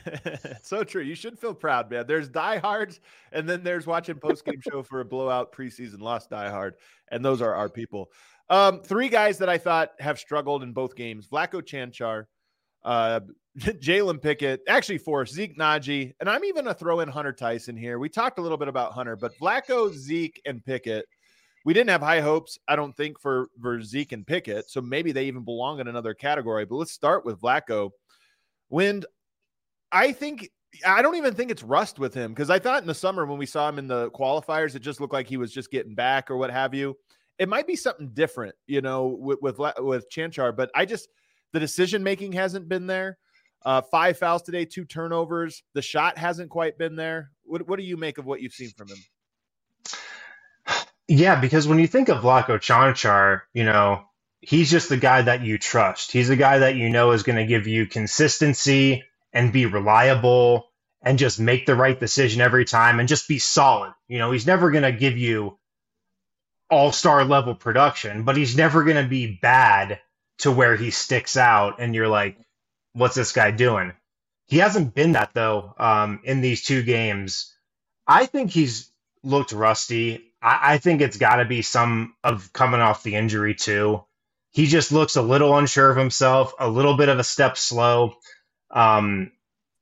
So true. You should feel proud, man. There's diehards, and then there's watching post game show for a blowout preseason loss diehard, and those are our people. Um, three guys that I thought have struggled in both games: Vlatko Čančar, uh, Jalen Pickett, actually four, Zeke Naji, and I'm even going to throw in Hunter Tyson here. We talked a little bit about Hunter, but Vlatko, Zeke, and Pickett. We didn't have high hopes, I don't think, for, for Zeke and Pickett, so maybe they even belong in another category. But let's start with Vlatko. Wind, I think I don't even think it's rust with him, because I thought in the summer when we saw him in the qualifiers, it just looked like he was just getting back or what have you. It might be something different, you know, with with, with Chanchar, but I just the decision making hasn't been there. Uh, five fouls today, two turnovers. The shot hasn't quite been there. What what do you make of what you've seen from him? Yeah, because when you think of Vlatko Chanchar, you know, he's just the guy that you trust. He's the guy that you know is going to give you consistency and be reliable and just make the right decision every time and just be solid. You know, he's never going to give you all-star level production, but he's never going to be bad to where he sticks out and you're like, what's this guy doing? He hasn't been that, though, um, in these two games. I think he's looked rusty. I, I think it's got to be some of coming off the injury, too. He just looks a little unsure of himself, a little bit of a step slow. Um,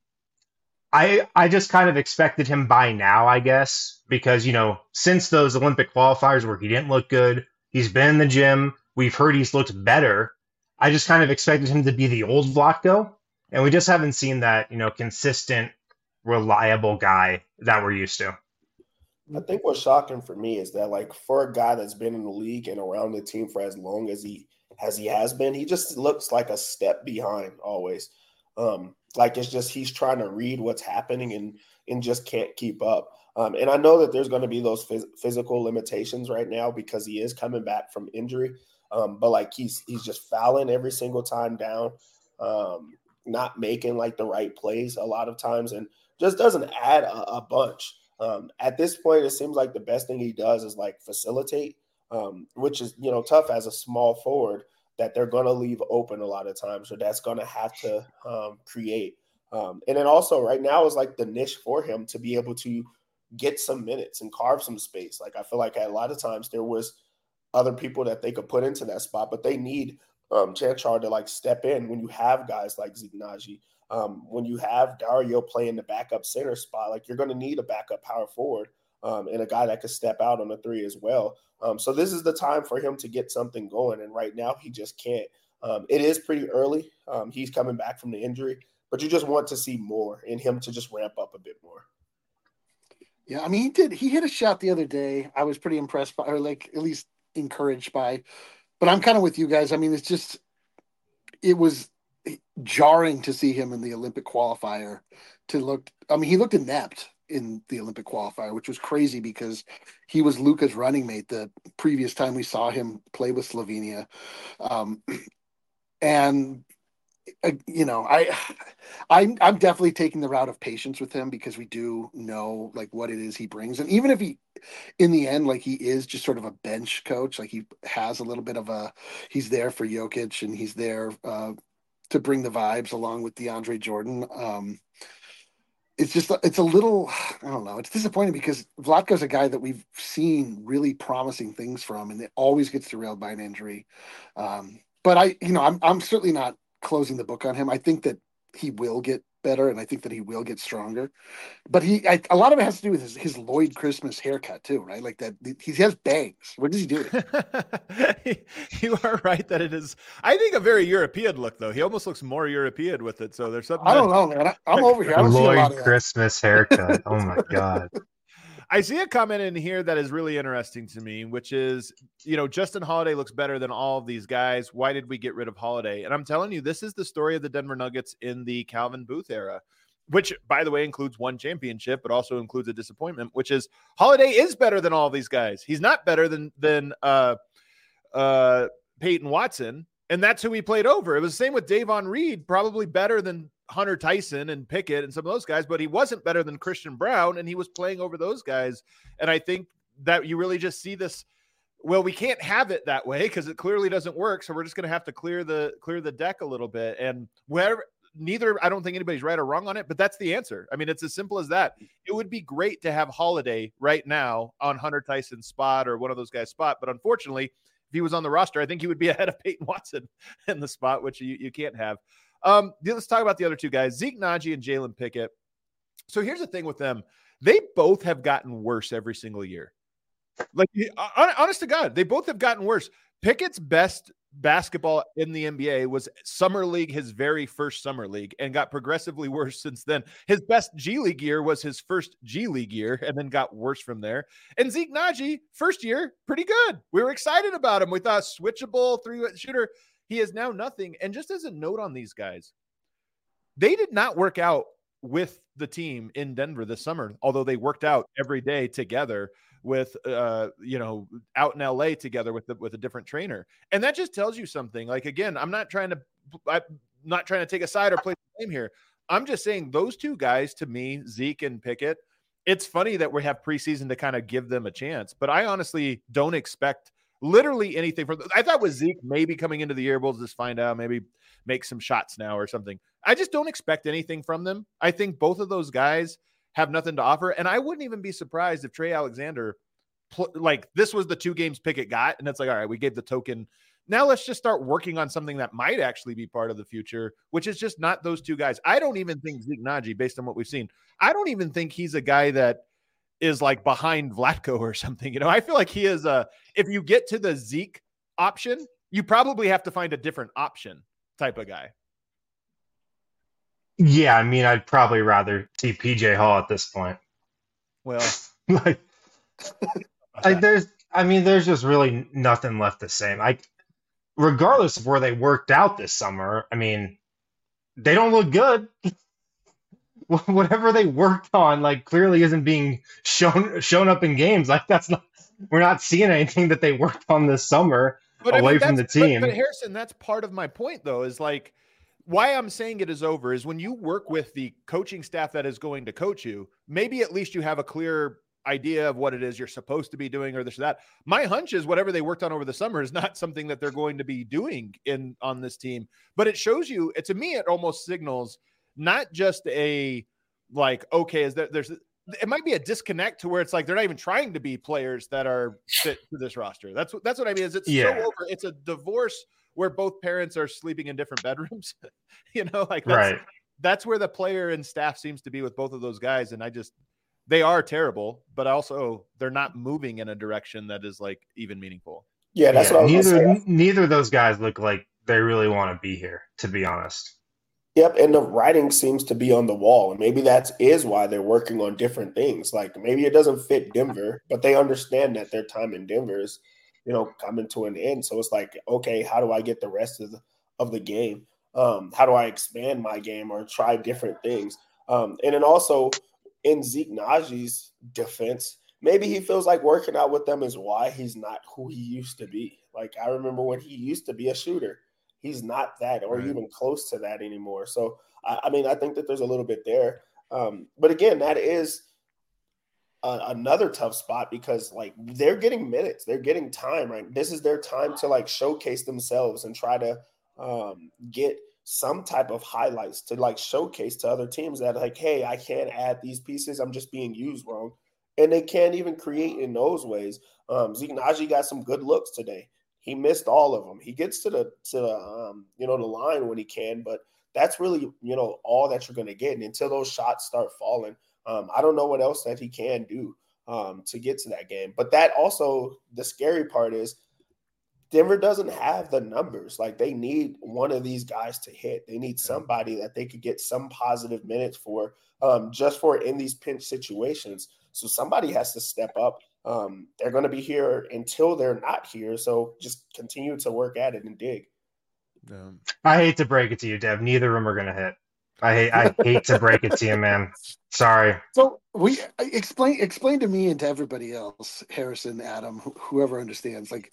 I I just kind of expected him by now, I guess, because, you know, since those Olympic qualifiers where he didn't look good, he's been in the gym. We've heard he's looked better. I just kind of expected him to be the old Vlatko, and we just haven't seen that, you know, consistent, reliable guy that we're used to. I think what's shocking for me is that, like, for a guy that's been in the league and around the team for as long as he as he has been, he just looks like a step behind always. Um, like it's just he's trying to read what's happening and and just can't keep up. Um, and I know that there's going to be those phys- physical limitations right now because he is coming back from injury. Um, but like he's he's just fouling every single time down, um, not making like the right plays a lot of times, and just doesn't add a, a bunch. Um, at this point, it seems like the best thing he does is like facilitate, um, which is, you know, tough as a small forward that they're going to leave open a lot of times. So that's going to have to um, create. Um, and then also right now is like the niche for him to be able to get some minutes and carve some space. Like I feel like a lot of times there was other people that they could put into that spot, but they need um, Chanchar to like step in when you have guys like Zignagi. Um, when you have Dario playing the backup center spot, like you're going to need a backup power forward um, and a guy that could step out on the three as well. Um, so this is the time for him to get something going. And right now he just can't. Um, it is pretty early. Um, he's coming back from the injury, but you just want to see more in him to just ramp up a bit more. Yeah, I mean, he did. He hit a shot the other day. I was pretty impressed by, or like at least encouraged by. But I'm kind of with you guys. I mean, it's just, it was jarring to see him in the Olympic qualifier. To look, I mean, he looked inept in the Olympic qualifier, which was crazy because he was Luka's running mate the previous time we saw him play with Slovenia. Um, and uh, you know, I, I, I'm definitely taking the route of patience with him because we do know like what it is he brings. And even if he, in the end, like he is just sort of a bench coach, like he has a little bit of a, he's there for Jokic and he's there uh, to bring the vibes along with DeAndre Jordan. Um, it's just, it's a little, I don't know. It's disappointing because Vlatko's a guy that we've seen really promising things from, and it always gets derailed by an injury. Um, but I, you know, I'm, I'm certainly not closing the book on him. I think that he will get better, and I think that he will get stronger. But he, I, a lot of it has to do with his, his Lloyd Christmas haircut too, right? Like that, he has bangs. What does he do? You are right that it is, I think, a very European look, though. He almost looks more European with it. So there's something. I don't know, man. I, I'm over here. I don't Lloyd see a lot of Christmas haircut. Oh my god. I see a comment in here that is really interesting to me, which is, you know, Justin Holiday looks better than all of these guys. Why did we get rid of Holiday? And I'm telling you, this is the story of the Denver Nuggets in the Calvin Booth era, which, by the way, includes one championship, but also includes a disappointment, which is Holiday is better than all of these guys. He's not better than, than uh, uh, Peyton Watson, and that's who he played over. It was the same with Davon Reed, probably better than Hunter Tyson and Pickett and some of those guys, but he wasn't better than Christian Brown, and he was playing over those guys. And I think that you really just see this. Well, we can't have it that way because it clearly doesn't work. So we're just going to have to clear the clear the deck a little bit. And where neither, I don't think anybody's right or wrong on it, but that's the answer. I mean, it's as simple as that. It would be great to have Holiday right now on Hunter Tyson's spot or one of those guys' spot, but unfortunately, if he was on the roster, I think he would be ahead of Peyton Watson in the spot, which you, you can't have. Um, let's talk about the other two guys, Zeke Naji and Jalen Pickett. So here's the thing with them. They both have gotten worse every single year. Like, honest to God, they both have gotten worse. Pickett's best basketball in the N B A was summer league, his very first summer league, and got progressively worse since then. His best G League year was his first G League year and then got worse from there. And Zeke Naji, first year, pretty good. We were excited about him. We thought switchable three shooter. He is now nothing. And just as a note on these guys, they did not work out with the team in Denver this summer, although they worked out every day together with, uh, you know, out in L A together with the, with a different trainer. And that just tells you something. Like, again, I'm not trying to, I'm not trying to take a side or play the game here. I'm just saying those two guys, to me, Zeke and Pickett, it's funny that we have preseason to kind of give them a chance, but I honestly don't expect literally anything from them. I thought with Zeke maybe coming into the year, we'll just find out, maybe make some shots now or something. I just don't expect anything from them. I think both of those guys have nothing to offer. And I wouldn't even be surprised if Trey Alexander, pl- like this was the two games Pickett got. And it's like, all right, we gave the token. Now let's just start working on something that might actually be part of the future, which is just not those two guys. I don't even think Zeke Naji, based on what we've seen, I don't even think he's a guy that is like behind Vlatko or something. You know, I feel like he is a, if you get to the Zeke option, you probably have to find a different option type of guy. Yeah, I mean, I'd probably rather see P J Hall at this point. Well, like, like there's, I mean, there's just really nothing left to say. Like, regardless of where they worked out this summer, I mean, they don't look good. Whatever they worked on, like, clearly isn't being shown shown up in games. Like, that's not, we're not seeing anything that they worked on this summer but away I mean, from the but, team. But Harrison, that's part of my point, though, is like, why I'm saying it is over is when you work with the coaching staff that is going to coach you, maybe at least you have a clear idea of what it is you're supposed to be doing or this or that. My hunch is whatever they worked on over the summer is not something that they're going to be doing in on this team, but it shows you, it, to me, it almost signals not just a like, okay, is there, there's, it might be a disconnect to where it's like, they're not even trying to be players that are fit to this roster. That's what, that's what I mean is it's Yeah. so over. It's a divorce where both parents are sleeping in different bedrooms, you know, like that's, Right. that's where the player and staff seems to be with both of those guys. And I just, they are terrible, but also they're not moving in a direction that is like even meaningful. Yeah, that's Yeah, what I was neither, gonna say. neither of those guys look like they really want to be here, to be honest. Yep, and the writing seems to be on the wall, and maybe that is why they're working on different things. Like maybe it doesn't fit Denver, but they understand that their time in Denver is, you know, coming to an end. So it's like, okay, how do I get the rest of the of the game? Um, how do I expand my game or try different things? Um, and then also in Zeke Naji's defense, maybe he feels like working out with them is why he's not who he used to be. Like I remember when he used to be a shooter. He's not that or Right. even close to that anymore. So, I, I mean, I think that there's a little bit there. Um, but again, that is a, another tough spot because, like, they're getting minutes. They're getting time, right? This is their time to, like, showcase themselves and try to um, get some type of highlights to, like, showcase to other teams that, like, hey, I can't add these pieces. I'm just being used wrong. And they can't even create in those ways. Um, Zeke Naji got some good looks today. He missed all of them. He gets to the to the um, you know the line when he can, but that's really you know all that you're going to get. And until those shots start falling, um, I don't know what else that he can do um, to get to that game. But that also the scary part is Denver doesn't have the numbers. Like they need one of these guys to hit. They need somebody that they could get some positive minutes for, um, just for in these pinch situations. So somebody has to step up. Um, they're going to be here until they're not here. So just continue to work at it and dig. Um, I hate to break it to you, Dev. Neither of them are going to hit. I hate, I hate to break it to you, man. Sorry. So we explain explain to me and to everybody else, Harrison, Adam, wh- whoever understands, like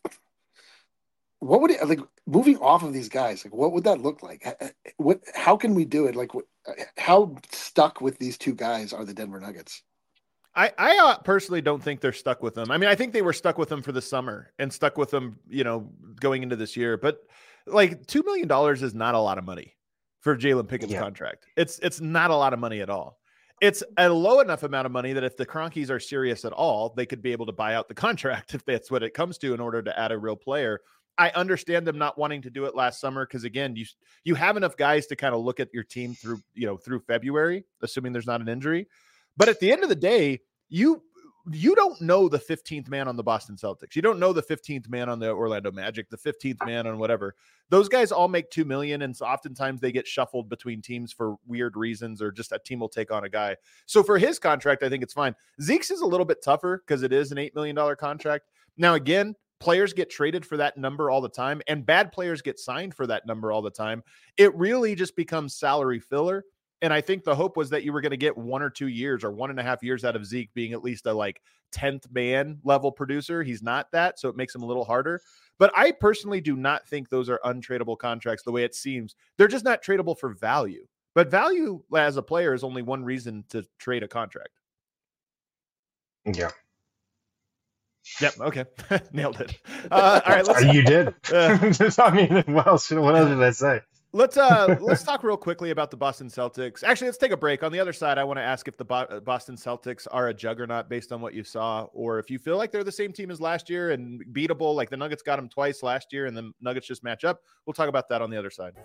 what would it like moving off of these guys? Like what would that look like? H- h- What? How can we do it? Like what, how stuck with these two guys are the Denver Nuggets? I, I uh, personally don't think they're stuck with them. I mean, I think they were stuck with them for the summer and stuck with them, you know, going into this year. But like two million dollars is not a lot of money for Jalen Pickett's Yeah. contract. It's it's not a lot of money at all. It's a low enough amount of money that if the Cronkies are serious at all, they could be able to buy out the contract if that's what it comes to in order to add a real player. I understand them not wanting to do it last summer because again, you you have enough guys to kind of look at your team through, you know, through February, assuming there's not an injury. But at the end of the day, you you don't know the fifteenth man on the Boston Celtics. You don't know the fifteenth man on the Orlando Magic, the fifteenth man on whatever. Those guys all make two million, and so oftentimes they get shuffled between teams for weird reasons, or just a team will take on a guy. So for his contract, I think it's fine. Zeke's is a little bit tougher because it is an eight million dollars contract. Now, again, players get traded for that number all the time, and bad players get signed for that number all the time. It really just becomes salary filler. And I think the hope was that you were going to get one or two years or one and a half years out of Zeke being at least a like tenth man level producer. He's not that, so it makes him a little harder. But I personally do not think those are untradeable contracts the way it seems. They're just not tradable for value. But value as a player is only one reason to trade a contract. Yeah. Yep. Okay. Nailed it. Uh, all right. Let's, you did. Uh, I mean, what else, what else did I say? Let's uh let's talk real quickly about the Boston Celtics. Actually, let's take a break. On the other side, I want to ask if the Bo- Boston Celtics are a juggernaut based on what you saw, or if you feel like they're the same team as last year and beatable, like the Nuggets got them twice last year and the Nuggets just match up. We'll talk about that on the other side.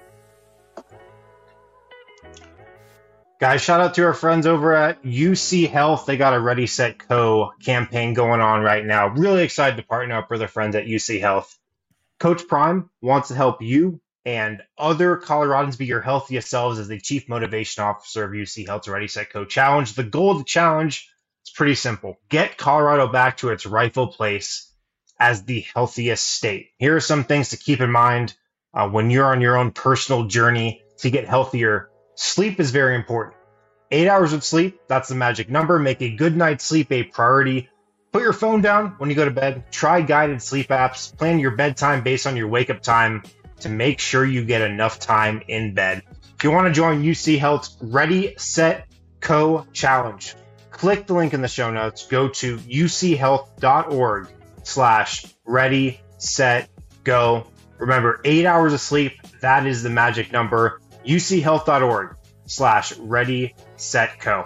Guys, shout out to our friends over at U C Health. They got a Ready, Set, Co campaign going on right now. Really excited to partner up with our friends at U C Health. Coach Prime wants to help you and other Coloradans be your healthiest selves as the Chief Motivation Officer of U C Health's Ready, Set, Co challenge. The goal of the challenge is pretty simple. Get Colorado back to its rightful place as the healthiest state. Here are some things to keep in mind uh, when you're on your own personal journey to get healthier. Sleep is very important. Eight hours of sleep, that's the magic number. Make a good night's sleep a priority. Put your phone down when you go to bed. Try guided sleep apps. Plan your bedtime based on your wake-up time to make sure you get enough time in bed. If you want to join U C Health's Ready, Set, Co challenge, click the link in the show notes. Go to uchealth.org slash ready, set, go. Remember, eight hours of sleep, that is the magic number. uchealth.org slash ready, set, co.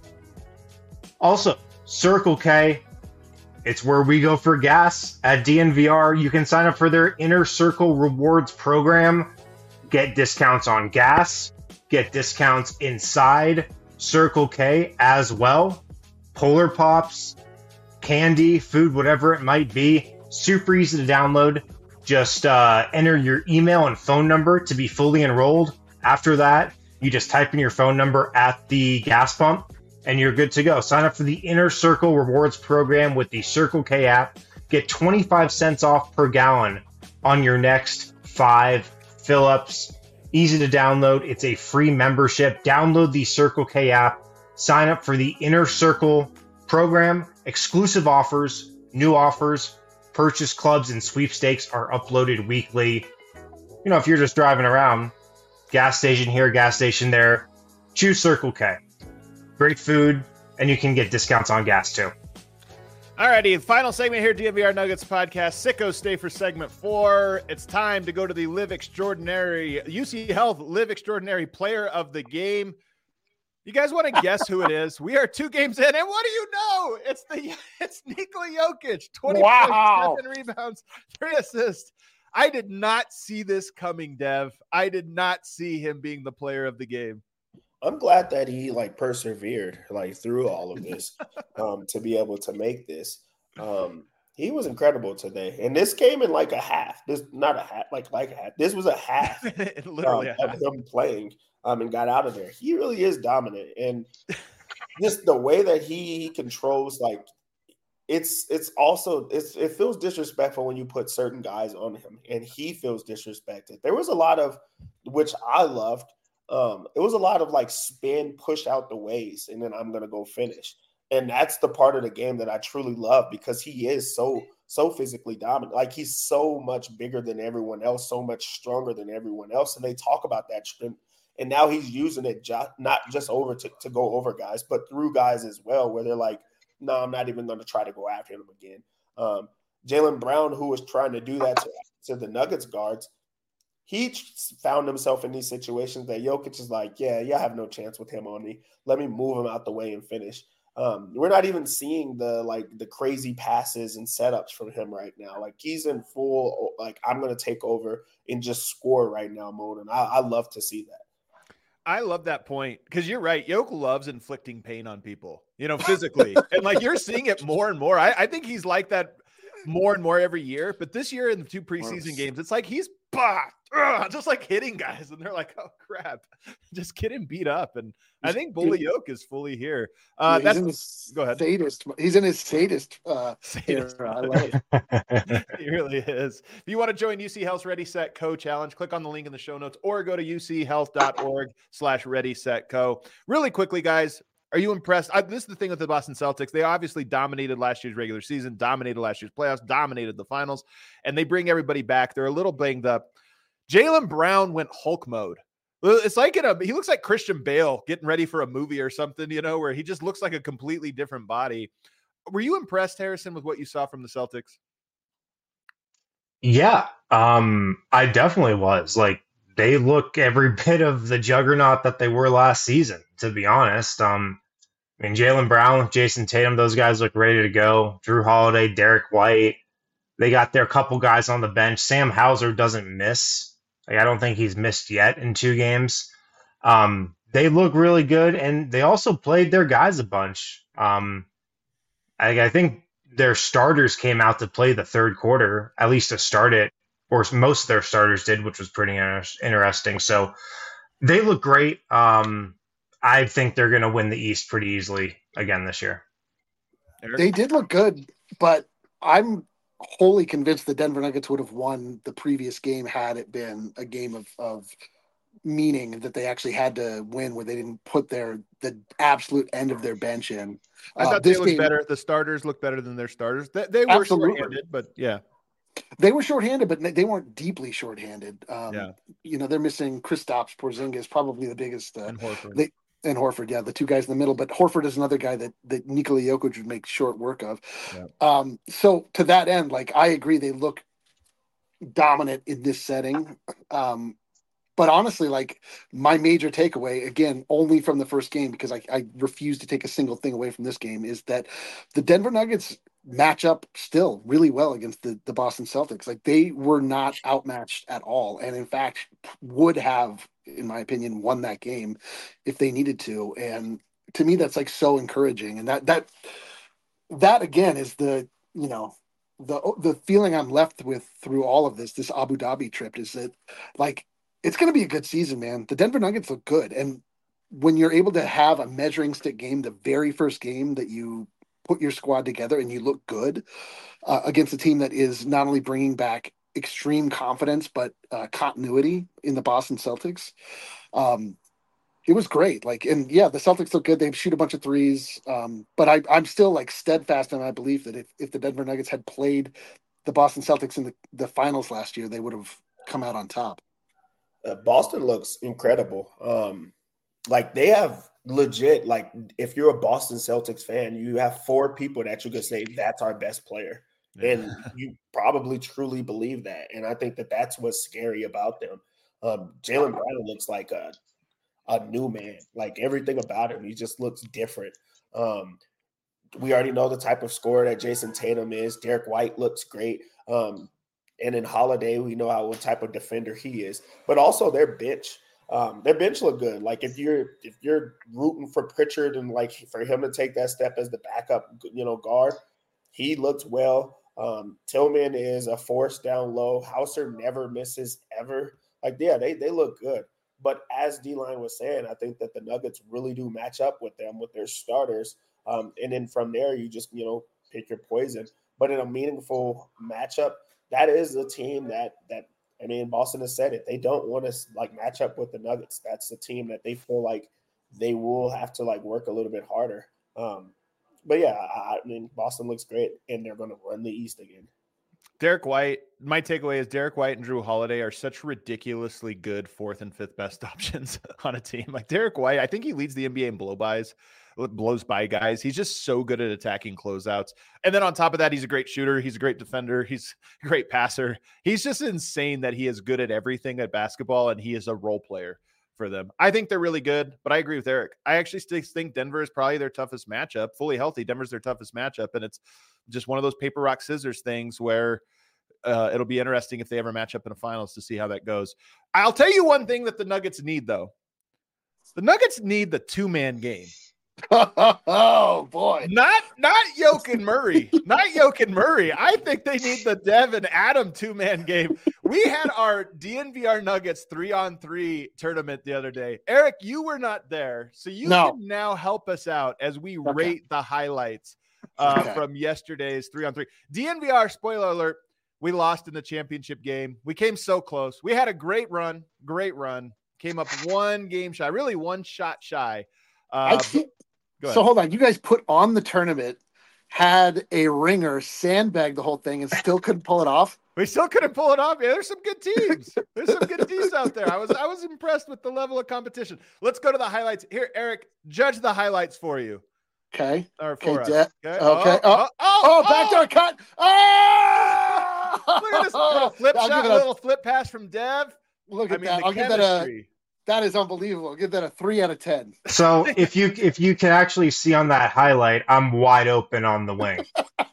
Also, Circle K, it's where we go for gas at D N V R. You can sign up for their Inner Circle Rewards program, get discounts on gas, get discounts inside Circle K as well. Polar Pops, candy, food, whatever it might be. Super easy to download. Just uh, enter your email and phone number to be fully enrolled. After that, you just type in your phone number at the gas pump and you're good to go. Sign up for the Inner Circle Rewards program with the Circle K app. Get twenty-five cents off per gallon on your next five fill-ups. Easy to download. It's a free membership. Download the Circle K app. Sign up for the Inner Circle program. Exclusive offers, new offers, purchase clubs, and sweepstakes are uploaded weekly. You know, if you're just driving around, gas station here, gas station there, choose Circle K. Great food, and you can get discounts on gas too. Alrighty, final segment here, D N V R Nuggets podcast. Sickos stay for segment four. It's time to go to the Live Extraordinary, U C Health Live Extraordinary Player of the Game. You guys want to guess who it is? We are two games in, and what do you know? It's the it's Nikola Jokic. twenty Wow. points, seven rebounds, three assists. I did not see this coming, Dev. I did not see him being the player of the game. I'm glad that he like persevered like through all of this um, to be able to make this. Um, he was incredible today, and this came in like a half. This not a half, like like a half. This was a half Literally um, a half. of him playing um, and got out of there. He really is dominant, and just the way that he, he controls like it's it's also it's it feels disrespectful when you put certain guys on him, and he feels disrespected. There was a lot of which I loved. Um, it was a lot of like spin, push out the ways, and then I'm gonna go finish. And that's the part of the game that I truly love because he is so so physically dominant. Like he's so much bigger than everyone else, so much stronger than everyone else. And they talk about that strength. And now he's using it jo- not just over to, to go over guys, but through guys as well, where they're like, no, I'm not even going to try to go after him again. Um, Jaylen Brown, who was trying to do that to, to the Nuggets guards, he found himself in these situations that Jokic is like, yeah, yeah, I have no chance with him on me. Let me move him out the way and finish. Um, we're not even seeing the like the crazy passes and setups from him right now. Like he's in full, like I'm going to take over and just score right now mode. And I, I love to see that. I love that point because you're right. Yoke loves inflicting pain on people, you know, physically. And like you're seeing it more and more. I, I think he's like that more and more every year. But this year in the two preseason games, it's like he's bah, ugh, just like hitting guys. And they're like, oh, crap, just get him beat up. And I think Bully Yoke is fully here. Uh, yeah, that's his go ahead. Sadist. He's in his sadist. Uh, sadist. Era. I love it. He really is. If you want to join U C Health's Ready, Set, Co challenge, click on the link in the show notes or go to uchealth.org slash ready, set, co. Really quickly, guys, are you impressed? I, this is the thing with the Boston Celtics. They obviously dominated last year's regular season, dominated last year's playoffs, dominated the finals, and they bring everybody back. They're a little banged up. Jaylen Brown went Hulk mode. It's like in a, he looks like Christian Bale getting ready for a movie or something, you know, where he just looks like a completely different body. Were you impressed, Harrison, with what you saw from the Celtics? Yeah, um, I definitely was. Like, they look every bit of the juggernaut that they were last season, to be honest. Um, I mean, Jaylen Brown, Jason Tatum, those guys look ready to go. Drew Holiday, Derek White. They got their couple guys on the bench. Sam Hauser doesn't miss. Like, I don't think he's missed yet in two games. Um, they look really good, and they also played their guys a bunch. Um, I, I think their starters came out to play the third quarter, at least to start it, or most of their starters did, which was pretty inter- interesting. So they look great. Um, I think they're going to win the East pretty easily again this year. They did look good, but I'm wholly convinced the Denver Nuggets would have won the previous game had it been a game of, of meaning that they actually had to win, where they didn't put their the absolute end of their bench in. I thought uh, they this looked game, better. The starters looked better than their starters. They, they were Absolutely. short-handed, but yeah. They were shorthanded, but they weren't deeply shorthanded. Um, Yeah. You know, they're missing Kristaps Porzingis, probably the biggest. Uh, And Horford. They, and Horford, yeah, the two guys in the middle. But Horford is another guy that, that Nikola Jokic would make short work of. Yeah. Um, so to that end, like, I agree, they look dominant in this setting. Um, but honestly, like, my major takeaway, again, only from the first game, because I, I refuse to take a single thing away from this game, is that the Denver Nuggets match up still really well against the, the Boston Celtics. Like, they were not outmatched at all. And in fact, would have, in my opinion, won that game if they needed to. And to me, that's like so encouraging. And that, that, that again is the, you know, the, the feeling I'm left with through all of this, this Abu Dhabi trip, is that, like, it's going to be a good season, man. The Denver Nuggets look good. And when you're able to have a measuring stick game, the very first game that you put your squad together and you look good uh, against a team that is not only bringing back extreme confidence, but uh, continuity in the Boston Celtics. Um, it was great. Like, and yeah, the Celtics look good. They shoot a bunch of threes. Um, but I, I'm still like steadfast in my belief that if, if the Denver Nuggets had played the Boston Celtics in the, the finals last year, they would have come out on top. Uh, Boston looks incredible. Um, like, they have legit, like, if you're a Boston Celtics fan, you have four people that you could say that's our best player. Yeah. And you probably truly believe that. And I think that that's what's scary about them. Um, Jaylen Brown looks like a, a new man. Like, everything about him, he just looks different. Um, we already know the type of scorer that Jason Tatum is. Derek White looks great. Um, And in Holiday, we know how what type of defender he is, but also their bench. Um, their bench look good. Like, if you're if you're rooting for Pritchard and like for him to take that step as the backup, you know, guard, he looks well. Um, Tillman is a force down low. Hauser never misses ever. Like, yeah, they they look good. But as D-Line was saying, I think that the Nuggets really do match up with them with their starters. Um, and then from there, you just you know pick your poison. But in a meaningful matchup, that is a team that, that I mean, Boston has said it. They don't want to, like, match up with the Nuggets. That's the team that they feel like they will have to, like, work a little bit harder. Um, but, yeah, I, I mean, Boston looks great, and they're going to run the East again. Derek White, my takeaway is Derek White and Drew Holiday are such ridiculously good fourth and fifth best options on a team. Like, Derek White, I think he leads the N B A in blow-bys. blows by guys. He's just so good at attacking closeouts. And then on top of that, he's a great shooter. He's a great defender. He's a great passer. He's just insane that he is good at everything at basketball, and he is a role player for them. I think they're really good, but I agree with Eric. I actually still think Denver is probably their toughest matchup. Fully healthy, Denver's their toughest matchup, and it's just one of those paper, rock, scissors things where uh, it'll be interesting if they ever match up in a finals to see how that goes. I'll tell you one thing that the Nuggets need, though. The Nuggets need the two-man game. Oh boy. Not not Yoke and Murray. Not Yoke and Murray. I think they need the Dev and Adam two-man game. We had our D N V R Nuggets three-on-three tournament the other day. Eric, you were not there, so you No. can now help us out as we Okay. rate the highlights uh, Okay. from yesterday's three-on-three. D N V R, spoiler alert, we lost in the championship game. We came so close. We had a great run, great run. Came up one game shy, really one shot shy. I Uh, think, go ahead. so hold on. You guys put on the tournament, had a ringer, sandbagged the whole thing, and still couldn't pull it off. We still couldn't pull it off. Yeah, there's some good teams. There's some good teams out there. I was I was impressed with the level of competition. Let's go to the highlights. Here, Eric, judge the highlights for you. Okay. Or for Okay. us. De- Okay. okay. Oh, oh, Oh, backdoor cut. Oh! Look at this little flip I'll shot, give it a- little flip pass from Dev. Look I at mean, that. the I'll give that a. chemistry. That is unbelievable. I'll give that a three out of ten. So if you if you can actually see on that highlight, I'm wide open on the wing.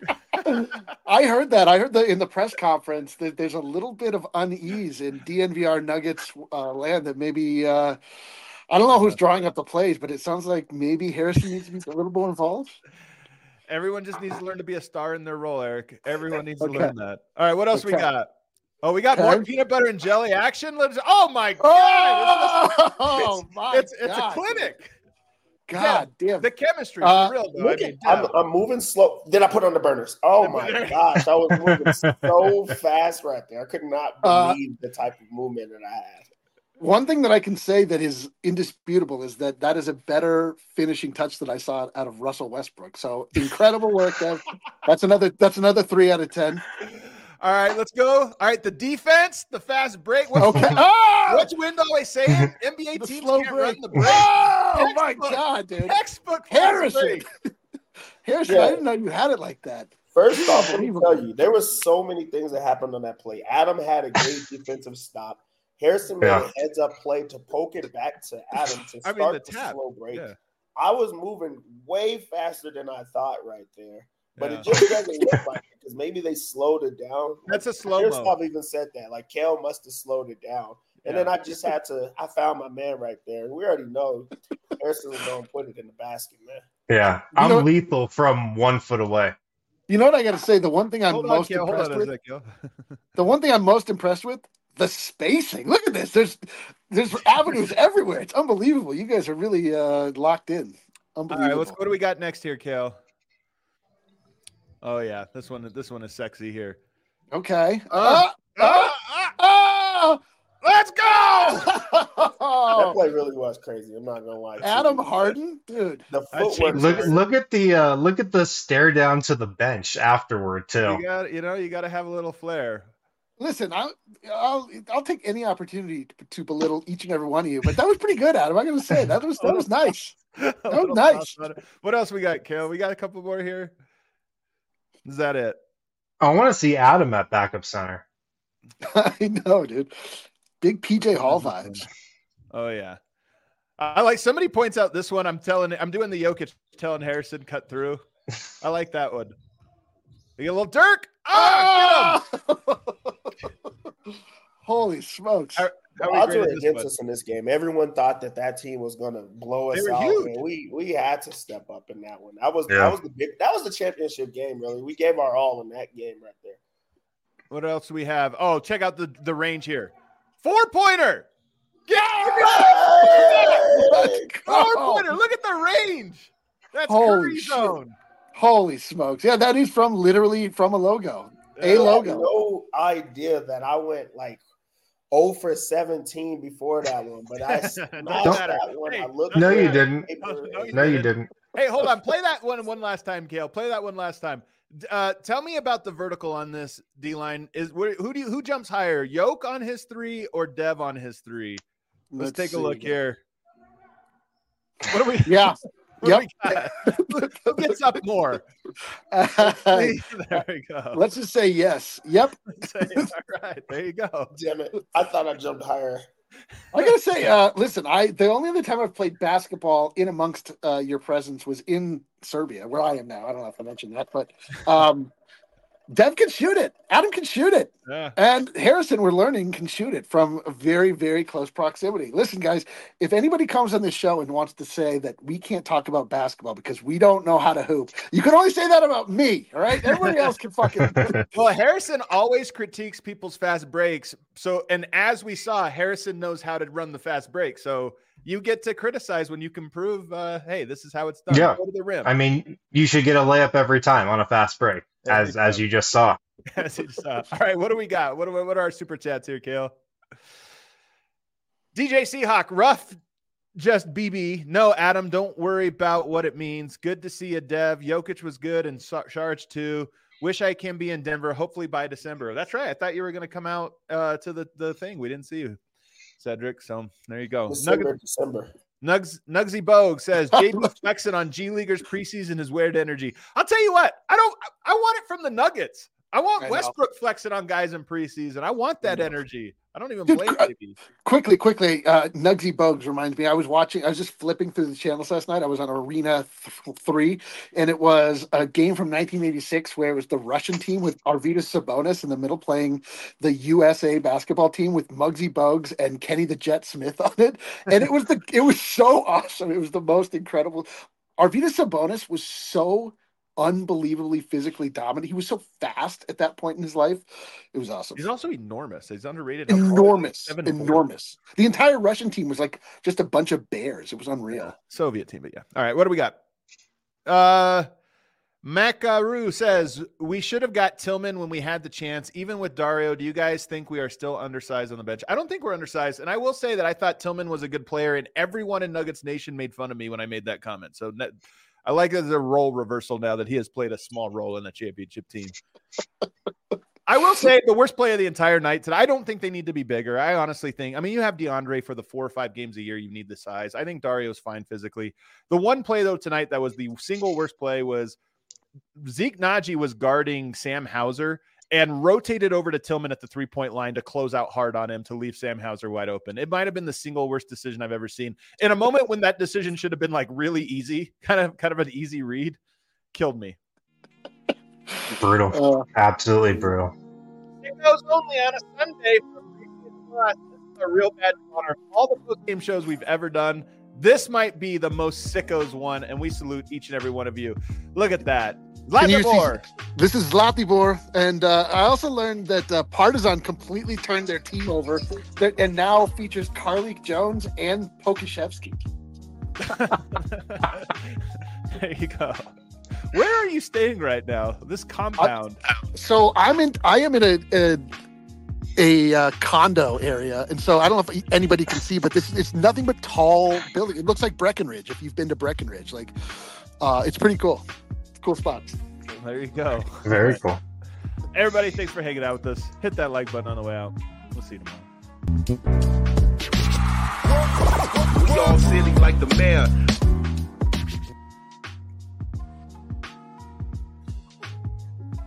I heard that. I heard that in the press conference that there's a little bit of unease in D N V R Nuggets uh, land. That maybe uh, I don't know who's drawing up the plays, but it sounds like maybe Harrison needs to be a little more involved. Everyone just needs to learn to be a star in their role, Eric. Everyone needs to Okay. learn that. All right, what else we Okay. got? Oh, we got Okay. more peanut butter and jelly action. Let's. Oh my god! Oh, my it's it's God, a clinic. God damn. The chemistry Uh, for real though. Look I at, mean, I'm, Dev. I'm moving slow. Then I put on the burners. Oh The my burner. gosh, I was moving so fast right there. I could not Uh, believe the type of movement that I had. One thing that I can say that is indisputable is that that is a better finishing touch that I saw out of Russell Westbrook. So incredible work, Dev. That's another. That's another three out of ten. All right, let's go. All right, the defense, the fast break. What's, Okay. Oh! what's Wind always saying? N B A The teams slow can't break. run the break. Oh my Textbook. God, dude. Textbook fast Harrison. break. Harrison, Yeah. I didn't know you had it like that. First off, let me Unbelievable. tell you, there was so many things that happened on that play. Adam had a great defensive stop. Harrison made Yeah. a heads up play to poke it back to Adam to I start mean, the the, tap. slow break. Yeah. I was moving way faster than I thought right there. But Yeah. it just doesn't look like it because maybe they slowed it down. That's a slow mo. Harrison even said that. Like, Kel must have slowed it down. And Yeah. then I just had to, I found my man right there. And we already know Harrison was going to put it in the basket, man. Yeah, You I'm know- lethal from one foot away. You know what I got to say? The one thing I'm Hold on, most Kale. Hold impressed on a with. sec, yo. The one thing I'm most impressed with. The spacing. Look at this. There's there's avenues everywhere. It's unbelievable. You guys are really uh, locked in. All Unbelievable. right, let's. What do we got next here, Kale? Oh yeah, this one. This one is sexy here. Okay. Uh, Uh, uh, ah, uh, let's go! That oh, play really was crazy. I'm not going to lie. to Adam you. Harden, dude. The I footwork. changed- Look was- look at the uh, look at the stare down to the bench afterward too. You got. You know, you got to have a little flair. Listen, I'll, I'll I'll take any opportunity to, to belittle each and every one of you, but that was pretty good, Adam. I'm gonna say that was that was nice. A was little nice. sauce on it. What else we got, Kale? We got a couple more here. Is that it? I want to see Adam at backup center. I know, dude. Big P J Hall vibes. Oh yeah. I like somebody points out this one. I'm telling I'm doing the Jokic telling Harrison cut through. I like that one. You get a little Dirk. Ah, Holy smokes! How- The How we odds were graded this against one? us in this game. Everyone thought that that team was going to blow us They were out. huge. And we we had to step up in that one. That was Yeah. that was the big that was the championship game. Really, we gave our all in that game right there. What else do we have? Oh, check out the, the range here. Four pointer. Yeah. Let's Four go. pointer. Look at the range. That's Holy Curry shit. zone. Holy smokes! Yeah, that is from literally from a logo. A I had logo. no idea that I went like zero for seventeen before that one, but I Don't smashed matter. that one. Hey, I looked. No, at you the didn't. paper No, you No, you didn't. didn't. Hey, hold on. Play that one one last time, Kale. Play that one last time. D- Uh, tell me about the vertical on this D line. Is wh- who do you, who jumps higher, Yoke on his three or Dev on his three? Let's, Let's take a see. look here. What do we? Yeah. What do we got? Who gets up more? there we go. Let's just say yes. Yep. Say, all right, there you go. Damn it! I thought I jumped higher. I gotta say, uh, listen, I the only other time I've played basketball in amongst uh, your presence was in Serbia, where I am now. I don't know if I mentioned that, but um, Dev can shoot it. Adam can shoot it. Yeah. And Harrison, we're learning, can shoot it from a very, very close proximity. Listen, guys, if anybody comes on this show and wants to say that we can't talk about basketball because we don't know how to hoop, you can only say that about me, all right? Everybody else can fucking... Well, Harrison always critiques people's fast breaks. So, and as we saw, Harrison knows how to run the fast break. So you get to criticize when you can prove, uh, hey, this is how it's done. Yeah. Go to the rim. I mean, you should get a layup every time on a fast break, Every as time. as you just saw. As you saw. All right, what do we got? What, are, what are our super chats here, Kale? D J Seahawk, rough, just B B. No, Adam, don't worry about what it means. Good to see you, Dev. Jokic was good and Sharge too. Wish I can be in Denver, hopefully by December. That's right. I thought you were going to come out uh, to the, the thing. We didn't see you, Cedric. So there you go. December, Nugget, December. Nugs, Nugsy Bogue says, J B flexing on G Leaguers preseason is weird energy. I'll tell you what, I don't, I want it from the Nuggets. I want I Westbrook flexing on guys in preseason. I want that energy. I don't even Dude, blame qu- J B. Quickly, quickly, uh, Nugsy Bogues reminds me. I was watching. I was just flipping through the channels last night. I was on Arena th- Three, and it was a game from nineteen eighty-six where it was the Russian team with Arvydas Sabonis in the middle playing the U S A basketball team with Muggsy Bogues and Kenny the Jet Smith on it, and it was the. It was so awesome. It was the most incredible. Arvydas Sabonis was so unbelievably physically dominant. He was so fast at that point in his life. It was awesome. He's also enormous. He's underrated. Enormous. Seven four. Enormous. The entire Russian team was like just a bunch of bears. It was unreal. Yeah, Soviet team, but yeah. All right, what do we got? Uh, Macaru says, we should have got Tillman when we had the chance. Even with Dario, do you guys think we are still undersized on the bench? I don't think we're undersized. And I will say that I thought Tillman was a good player, and everyone in Nuggets Nation made fun of me when I made that comment. So I like it as a role reversal now that he has played a small role in the championship team. I will say the worst play of the entire night today. I don't think they need to be bigger. I honestly think, I mean, you have DeAndre for the four or five games a year. You need the size. I think Dario's fine physically. The one play, though, tonight that was the single worst play was Zeke Naji was guarding Sam Hauser and rotated over to Tillman at the three-point line to close out hard on him to leave Sam Hauser wide open. It might have been the single worst decision I've ever seen. In a moment when that decision should have been like really easy, kind of kind of an easy read, killed me. Brutal. Uh, Absolutely brutal. It goes only on a Sunday for a This is a real bad honor. All the post-game shows we've ever done, this might be the most sickos one, and we salute each and every one of you. Look at that. Zlatibor. This is Zlatibor, and uh, I also learned that uh, Partizan completely turned their team over that, and now features Karlik Jones and Pokashevsky. There you go. Where are you staying right now? This compound. Uh, so I'm in. I am in a a, a uh, condo area, and so I don't know if anybody can see, but this it's nothing but tall building. It looks like Breckenridge. If you've been to Breckenridge, like uh, it's pretty cool. Cool spots. There you go. Very cool. Everybody, thanks for hanging out with us. Hit that like button on the way out. We'll see you tomorrow. We all silly like the mayor.